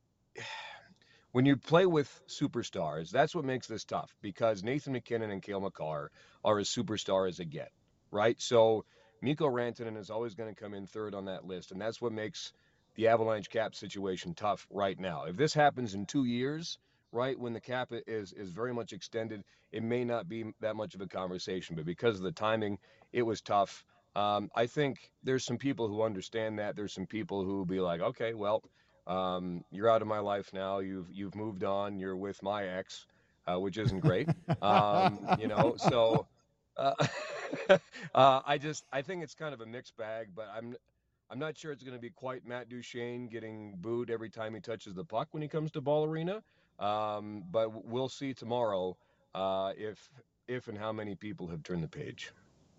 when you play with superstars, that's what makes this tough, because Nathan MacKinnon and Cale Makar are as superstar as they get, right? So Mikko Rantanen is always going to come in third on that list, and that's what makes the Avalanche cap situation tough right now. If this happens in two years, right, when the cap is is very much extended, it may not be that much of a conversation, but because of the timing, it was tough. Um, I think there's some people who understand that. There's some people who will be like, okay, well, um, you're out of my life now. You've you've moved on. You're with my ex, uh, which isn't great. Um, you know, so uh, uh, I just I think it's kind of a mixed bag. But I'm I'm not sure it's going to be quite Matt Duchene getting booed every time he touches the puck when he comes to Ball Arena. Um, but we'll see tomorrow uh, if if and how many people have turned the page.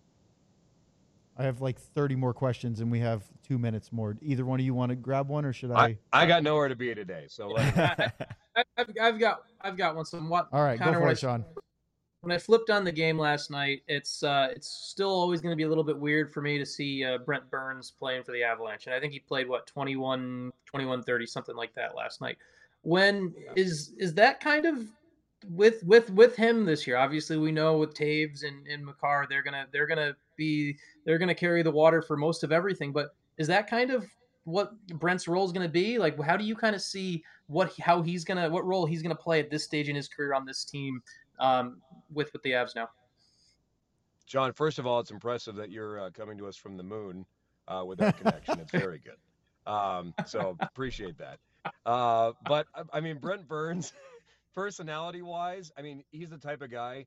I have like thirty more questions, and we have two minutes more. Either one of you want to grab one, or should I? I, I got nowhere to be today, so I, I've, I've got I've got one. Somewhat. All right, go for it, Sean. When I flipped on the game last night, it's uh, it's still always going to be a little bit weird for me to see uh, Brent Burns playing for the Avalanche, and I think he played what twenty-one, twenty-one thirty, something like that last night. When is is that kind of with with with him this year? Obviously, we know with Taves and, and Makar, they're gonna they're gonna be they're gonna carry the water for most of everything. But is that kind of what Brent's role is going to be? Like, how do you kind of see what how he's gonna what role he's gonna play at this stage in his career on this team um, with with the Avs now? John, first of all, it's impressive that you're uh, coming to us from the moon uh, with that connection. It's very good. Um, so appreciate that. Uh, but I mean, Brent Burns, personality wise, I mean, he's the type of guy,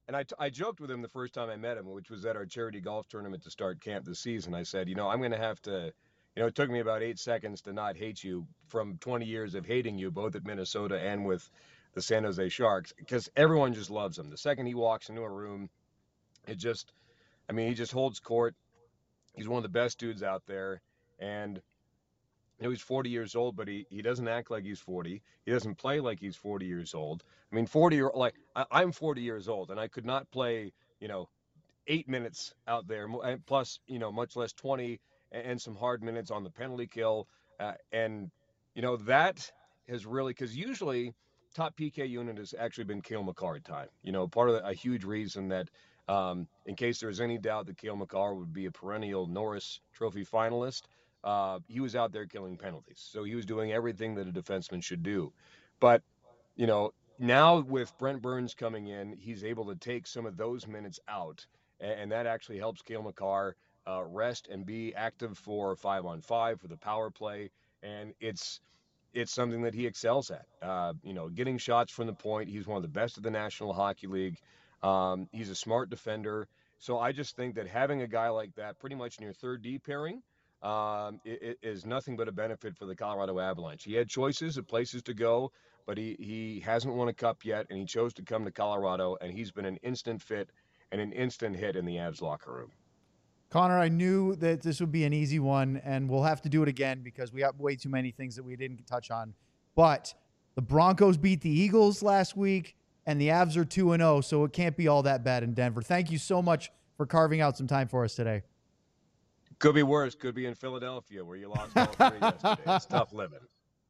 and I, t- I joked with him the first time I met him, which was at our charity golf tournament to start camp this season. I said, you know, I'm going to have to, you know, it took me about eight seconds to not hate you from twenty years of hating you, both at Minnesota and with the San Jose Sharks, because everyone just loves him. The second he walks into a room, it just, I mean, he just holds court. He's one of the best dudes out there. And you know, he's forty years old, but he, he doesn't act like he's forty. He doesn't play like he's forty years old. I mean, forty year like I, I'm forty years old, and I could not play, you know, eight minutes out there, plus, you know, much less twenty, and some hard minutes on the penalty kill. Uh, and, you know, that has really, because usually top P K unit has actually been Cale Makar at time. You know, part of the, a huge reason that, um, in case there's any doubt that Cale Makar would be a perennial Norris Trophy finalist, Uh, he was out there killing penalties. So he was doing everything that a defenseman should do. But, you know, now with Brent Burns coming in, he's able to take some of those minutes out. And, and that actually helps Cale Makar uh, rest and be active for five on five for the power play. And it's it's something that he excels at. Uh, you know, getting shots from the point. He's one of the best of the National Hockey League. Um, he's a smart defender. So I just think that having a guy like that pretty much in your third D pairing, Um, it, it is nothing but a benefit for the Colorado Avalanche. He had choices of places to go, but he, he hasn't won a cup yet, and he chose to come to Colorado, and he's been an instant fit and an instant hit in the Avs locker room. Connor, I knew that this would be an easy one, and we'll have to do it again because we have way too many things that we didn't touch on. But the Broncos beat the Eagles last week, and the Avs are two and oh, so it can't be all that bad in Denver. Thank you so much for carving out some time for us today. Could be worse. Could be in Philadelphia where you lost all three yesterday. It's tough living.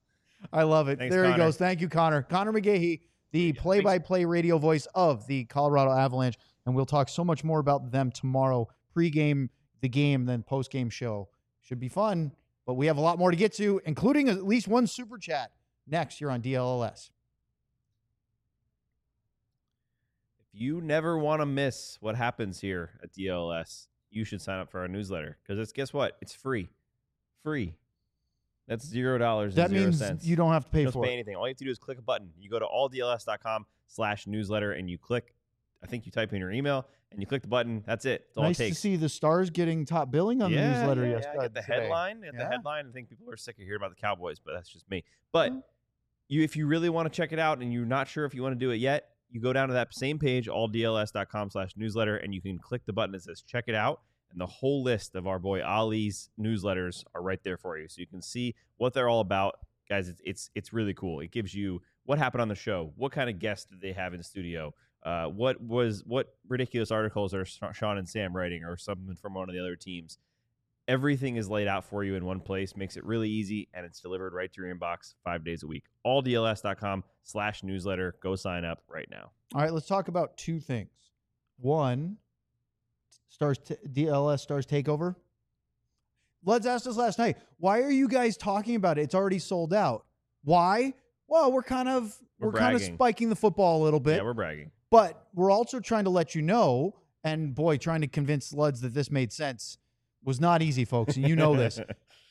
I love it. Thanks, there Connor. he goes. Thank you, Connor. Connor McGahey, the Yeah, play-by-play radio voice of the Colorado Avalanche. And we'll talk so much more about them tomorrow. Pre-game, the game, then post-game show. Should be fun, but we have a lot more to get to, including at least one super chat next here on D L L S. If you never want to miss what happens here at D L L S, you should sign up for our newsletter because it's, guess what? It's free. Free. That's zero dollars That and zero means cents. you don't have to pay You don't for pay it. anything. All you have to do is click a button. You go to all D L S dot com slash newsletter and you click, I think you type in your email and you click the button. That's it. That's all Nice it to takes. see the Stars getting top billing on yeah, the newsletter yeah, yesterday. yeah. I get the today. headline. Get Yeah. the headline. I think people are sick of hearing about the Cowboys, but that's just me. But Mm. you, if you really want to check it out and you're not sure if you want to do it yet, you go down to that same page, all D L S dot com slash newsletter, and you can click the button that says check it out. And the whole list of our boy Ali's newsletters are right there for you. So you can see what they're all about. Guys, it's it's, it's really cool. It gives you what happened on the show, what kind of guests did they have in the studio, uh, what was what ridiculous articles are Sean and Sam writing or something from one of the other teams. Everything is laid out for you in one place, makes it really easy, and it's delivered right to your inbox five days a week. all D L S dot com slash newsletter. Go sign up right now. All right, let's talk about two things. One, Stars t- D L S Stars Takeover. Let's ask us last night. Why are you guys talking about it? It's already sold out. Why? Well, we're kind of We're we're, kind of bragging. spiking the football a little bit, Yeah, we're bragging. but we're also trying to let you know. And boy, trying to convince Luds that this made sense was not easy, folks. And you know this.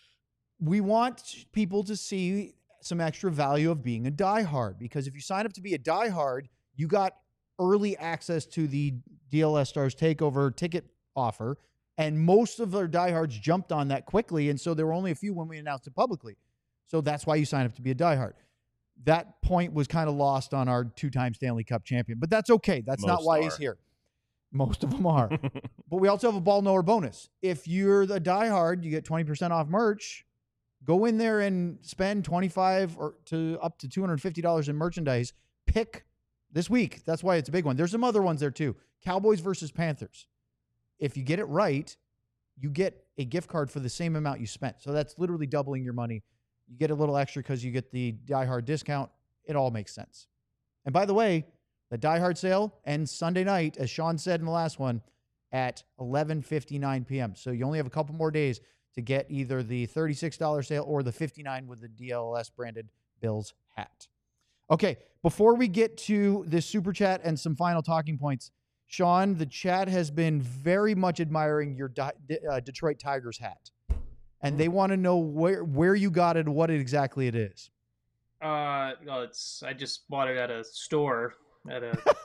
We want people to see some extra value of being a diehard, because if you sign up to be a diehard, you got early access to the D L S Stars Takeover ticket offer, and most of our diehards jumped on that quickly, and so there were only a few when we announced it publicly. So that's why you sign up to be a diehard. That point was kind of lost on our two-time Stanley Cup champion, but that's okay. That's not Most why are. he's here. Most of them are. But we also have a ball knower bonus. If you're the diehard, you get twenty percent off merch. Go in there and spend twenty-five or to up to two hundred fifty dollars in merchandise. Pick this week. That's why it's a big one. There's some other ones there too. Cowboys versus Panthers. If you get it right, you get a gift card for the same amount you spent. So that's literally doubling your money. You get a little extra because you get the diehard discount. It all makes sense. And by the way, the diehard sale ends Sunday night, as Sean said in the last one, at eleven fifty-nine p.m. So you only have a couple more days to get either the thirty-six dollars sale or the fifty-nine dollars with the D L S branded Bills hat. Okay, before we get to this super chat and some final talking points, Sean, the chat has been very much admiring your Di- uh, Detroit Tigers hat. And they want to know where where you got it and what it exactly it is. Uh, well, it's I just bought it at a store at a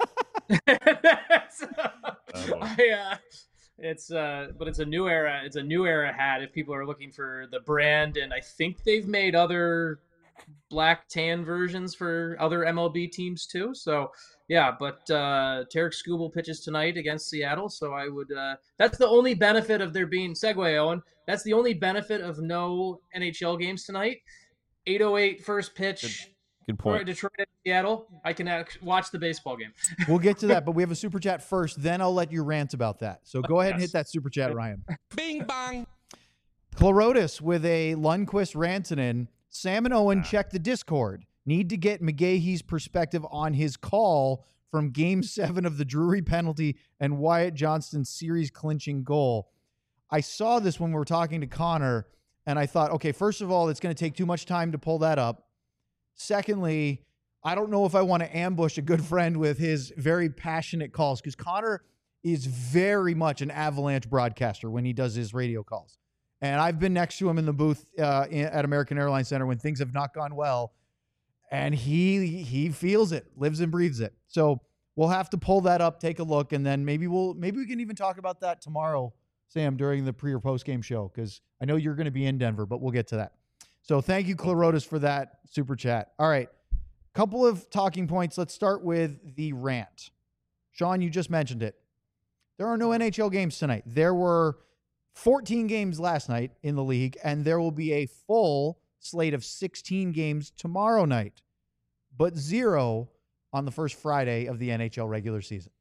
so, Oh, I, uh, it's uh, but it's a new era. It's a new era hat. If people are looking for the brand, and I think they've made other black tan versions for other M L B teams too. So yeah, but uh, Tarek Skubal pitches tonight against Seattle. So I would. Uh, that's the only benefit of there being segue, Owen. That's the only benefit of no N H L games tonight. eight oh eight first pitch. Good For point. Detroit and Seattle, I can act- watch the baseball game. We'll get to that, but we have a super chat first. Then I'll let you rant about that. So go ahead and Yes. hit that super chat, Ryan. Bing bong. Chlorotis with a Lundqvist Rantanen. Sam and Owen check the Discord. Need to get McGahee's perspective on his call from Game Seven of the Drury penalty and Wyatt Johnston's series clinching goal. I saw this when we were talking to Connor, and I thought, okay, first of all, it's going to take too much time to pull that up. Secondly, I don't know if I want to ambush a good friend with his very passionate calls, because Connor is very much an Avalanche broadcaster when he does his radio calls. And I've been next to him in the booth uh, in, at American Airlines Center when things have not gone well. And he he feels it, lives and breathes it. So we'll have to pull that up, take a look, and then maybe we'll maybe we can even talk about that tomorrow, Sam, during the pre or post game show, because I know you're going to be in Denver, but we'll get to that. So thank you, Chlorotis, for that super chat. All right. Couple of talking points. Let's start with the rant. Sean, you just mentioned it. There are no N H L games tonight. There were fourteen games last night in the league, and there will be a full slate of sixteen games tomorrow night, but zero on the first Friday of the N H L regular season.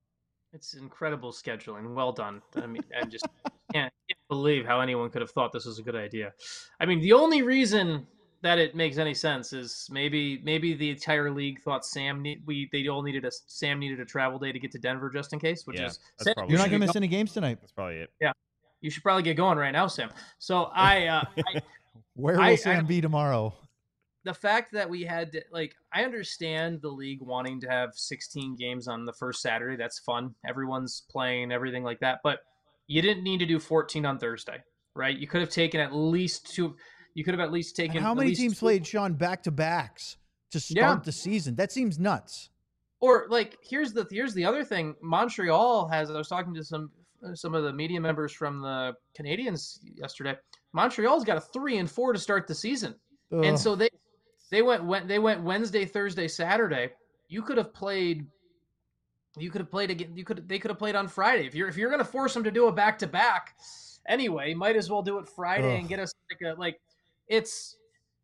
It's incredible scheduling. Well done. I mean, I just can't, can't believe how anyone could have thought this was a good idea. I mean, the only reason that it makes any sense is maybe maybe the entire league thought Sam need, we they all needed a Sam needed a travel day to get to Denver just in case, which Yeah, is that's Sam, probably You're you not should going to get miss any games tonight. That's probably it. go- you should probably get going right now, Sam. So I, uh, I Where will I- Sam I- be tomorrow? the fact that we had to, like, I understand the league wanting to have sixteen games on the first Saturday. That's fun. Everyone's playing, everything like that. But you didn't need to do fourteen on Thursday, right? You could have taken at least two. You could have at least taken. And how at many least teams two- played, Sean, back-to-backs to start Yeah. the season? That seems nuts. Or like, here's the here's the other thing. Montreal has. I was talking to some some of the media members from the Canadians yesterday. Montreal's got a three and four to start the season, Ugh. and so they they went when they went Wednesday, Thursday, Saturday. You could have played. You could have played again. You could they could have played on Friday. If you're if you're going to force them to do a back to back, anyway, might as well do it Friday Ugh. and get us like a like. It's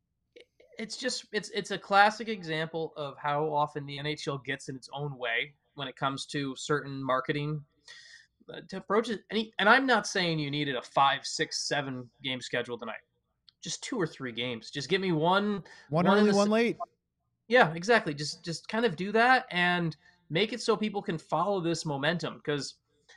it's just it's it's a classic example of how often the N H L gets in its own way when it comes to certain marketing uh, to approach it. And, he, and I'm not saying you needed a five, six, seven game schedule tonight. Just two or three games. Just give me one. one one in early, the one s- late. Yeah, exactly. Just just kind of do that and make it so people can follow this momentum, because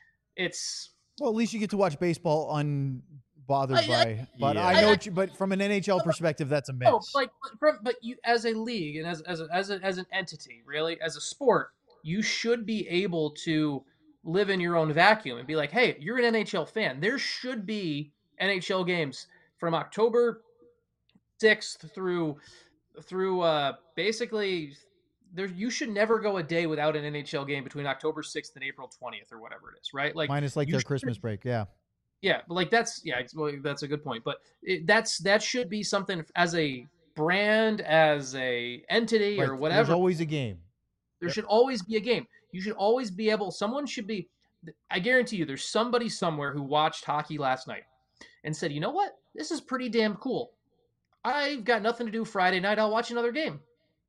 it's Well, at least you get to watch baseball unbothered I- I- by. But Yeah. I I- know, I- what you, but from an N H L perspective, that's a miss. no, like but from but you as a league and as as a, as a, as an entity, really as a sport, you should be able to live in your own vacuum and be like, hey, you're an N H L fan. There should be N H L games from October sixth through through uh basically there you should never go a day without an N H L game between October sixth and April twentieth or whatever it is, right? Like Minus like you their should- Christmas break. Yeah. Yeah, but like that's yeah, it's- well, that's a good point. But it, that's that should be something as a brand, as a entity, Right. or whatever. There's always a game. There should always be a game. You should always be able. Someone should be. I guarantee you, there's somebody somewhere who watched hockey last night and said, "You know what? This is pretty damn cool. I've got nothing to do Friday night. I'll watch another game."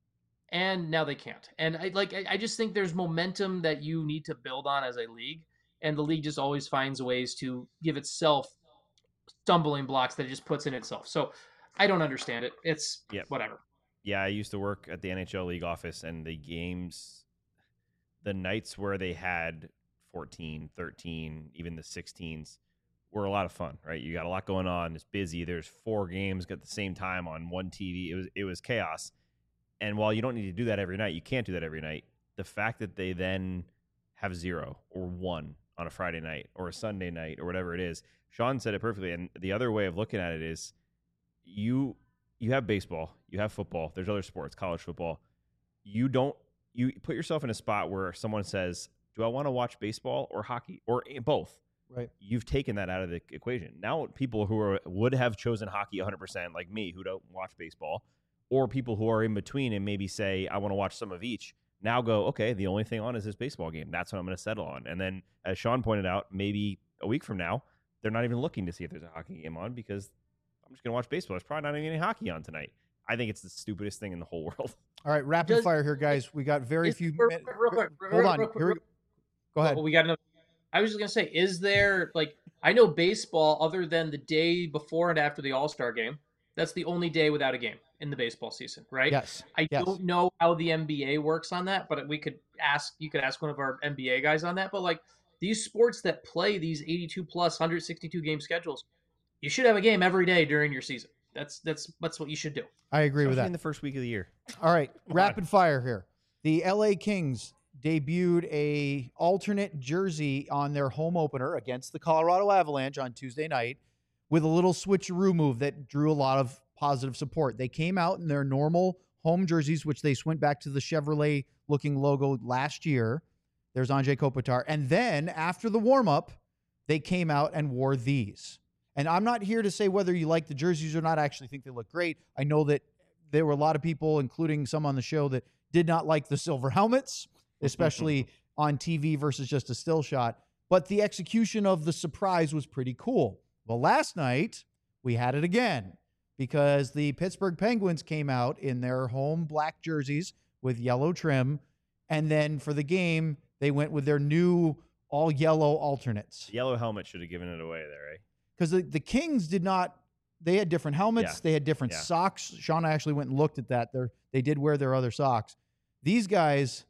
And now they can't. And I like. I, I just think there's momentum that you need to build on as a league, and the league just always finds ways to give itself stumbling blocks that it just puts in itself. So I don't understand it. It's Yep. whatever. Yeah, I used to work at the N H L league office, and the games, the nights where they had fourteen, thirteen, even the sixteens were a lot of fun, right? You got a lot going on. It's busy. There's four games at the same time on one T V. It was it was chaos. And while you don't need to do that every night, you can't do that every night. The fact that they then have zero or one on a Friday night or a Sunday night or whatever it is, Sean said it perfectly. And the other way of looking at it is you you have baseball, you have football, there's other sports, college football. You don't you put yourself in a spot where someone says, do I want to watch baseball or hockey or both? Right. You've taken that out of the equation. Now people who are would have chosen hockey one hundred percent, like me, who don't watch baseball, or people who are in between and maybe say, I want to watch some of each, now go, okay, the only thing on is this baseball game. That's what I'm going to settle on. And then, as Sean pointed out, maybe a week from now, they're not even looking to see if there's a hockey game on because I'm just going to watch baseball. There's probably not even any hockey on tonight. I think it's the stupidest thing in the whole world. All right, rapid Does- fire here, guys. We got very Is- few real minutes. quick, real quick, real Hold on. quick, Here we real- go. Go ahead. Well, we got another. I was just gonna say, is there like I know baseball other than the day before and after the All-Star game? That's the only day without a game in the baseball season, right? Yes. I yes. don't know how the N B A works on that, but we could ask. You could ask one of our N B A guys on that. But like these sports that play these eighty-two plus one hundred sixty-two game schedules, you should have a game every day during your season. That's that's that's what you should do. I agree with Especially that. in the first week of the year. All right, rapid fire here. The L A Kings debuted a alternate jersey on their home opener against the Colorado Avalanche on Tuesday night with a little switcheroo move that drew a lot of positive support. They came out in their normal home jerseys, which they went back to the Chevrolet-looking logo last year. There's Anze Kopitar. And then after the warm-up, they came out and wore these. And I'm not here to say whether you like the jerseys or not. I actually think they look great. I know that there were a lot of people, including some on the show, that did not like the silver helmets, especially on T V versus just a still shot. But the execution of the surprise was pretty cool. Well, last night, we had it again because the Pittsburgh Penguins came out in their home black jerseys with yellow trim. And then for the game, they went with their new all yellow alternates. The yellow helmet should have given it away there, right? Because the, the Kings did not, they had different helmets. Yeah. They had different Yeah. socks. Sean actually went and looked at that. They're, they did wear their other socks. These guys,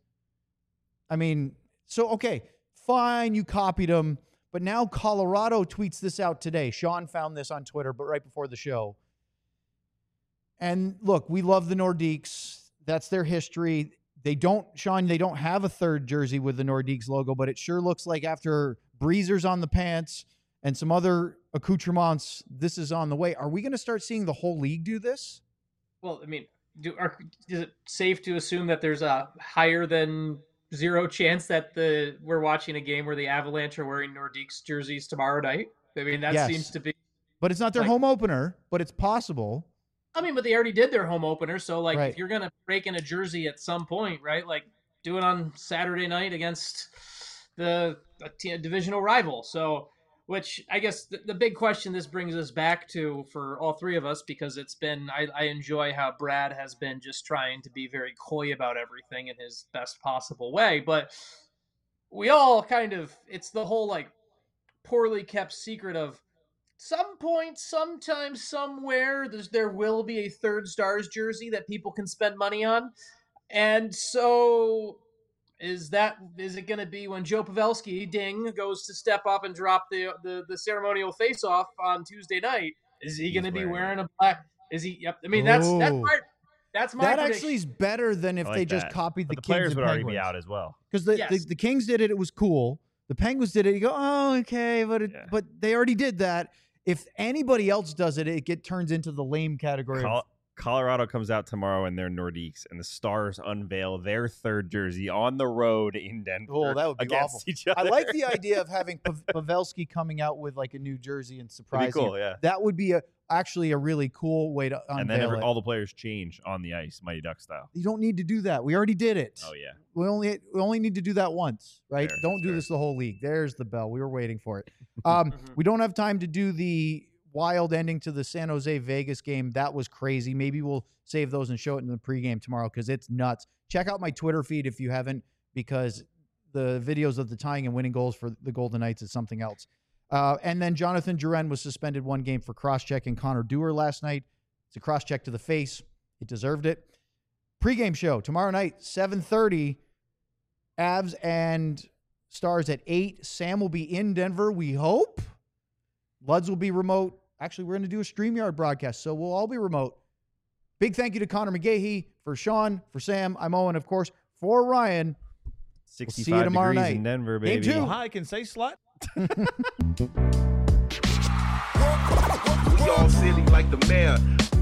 I mean, so, okay, fine, you copied them. But now Colorado tweets this out today. Sean found this on Twitter, but right before the show. And look, we love the Nordiques. That's their history. They don't, Sean, they don't have a third jersey with the Nordiques logo, but it sure looks like after breezers on the pants and some other accoutrements, this is on the way. Are we going to start seeing the whole league do this? Well, I mean, do are, is it safe to assume that there's a higher than zero chance that the we're watching a game where the Avalanche are wearing Nordiques jerseys tomorrow night? I mean, that Yes. seems to be. But it's not their Like- home opener, but it's possible. I mean, but they already did their home opener, so like, Right. if you're gonna break in a jersey at some point, right? Like, do it on Saturday night against the a t- divisional rival. So, which I guess the, the big question this brings us back to for all three of us, because it's been I, I enjoy how Brad has been just trying to be very coy about everything in his best possible way, but we all kind of it's the whole like poorly kept secret of. Some point, sometime, somewhere, there's, there will be a third Stars jersey that people can spend money on. And so is that is it going to be when Joe Pavelski, ding, goes to step up and drop the the, the ceremonial face-off on Tuesday night? Is he going to be wearing wearing a black? Is he? Yep. I mean, that's that's Ooh. my that's my That prediction. actually is better than if I like they just that. copied the, But the Kings players and would already Penguins. be out as well. Because the, Yes. the, the Kings did it, it was cool. The Penguins did it, you go, oh, okay, but it, Yeah. but they already did that. If anybody else does it, it get turns into the lame category. of- Col- Colorado comes out tomorrow in their Nordiques, and the Stars unveil their third jersey on the road in Denver. Oh, that would be against awful. each other. I like the idea of having Pav- Pavelski coming out with like a new jersey and That'd surprising. be cool, you. yeah. That would be a actually a really cool way to unveil And then every, it. all the players change on the ice, Mighty Duck style. You don't need to do that. We already did it. Oh yeah, We only we only need to do that once, right? Fair, don't that's do fair. this the whole league. There's the bell. We were waiting for it. Um, Mhm. We don't have time to do the wild ending to the San Jose Vegas game. That was crazy. Maybe we'll save those and show it in the pregame tomorrow because it's nuts. Check out my Twitter feed if you haven't, because the videos of the tying and winning goals for the Golden Knights is something else. Uh, and then Jonathan Drouin was suspended one game for cross-checking Connor Dewar last night. It's a cross-check to the face. He deserved it. Pregame show tomorrow night, seven thirty. Avs and Stars at eight. Sam will be in Denver, we hope. Luds will be remote. Actually, we're going to do a StreamYard broadcast, so we'll all be remote. Big thank you to Connor McGahey, for Sean, for Sam. I'm Owen, of course, for Ryan. see you sixty-five tomorrow degrees night. in Denver, Game baby. two. Hi, can say slut. We all silly like the mayor.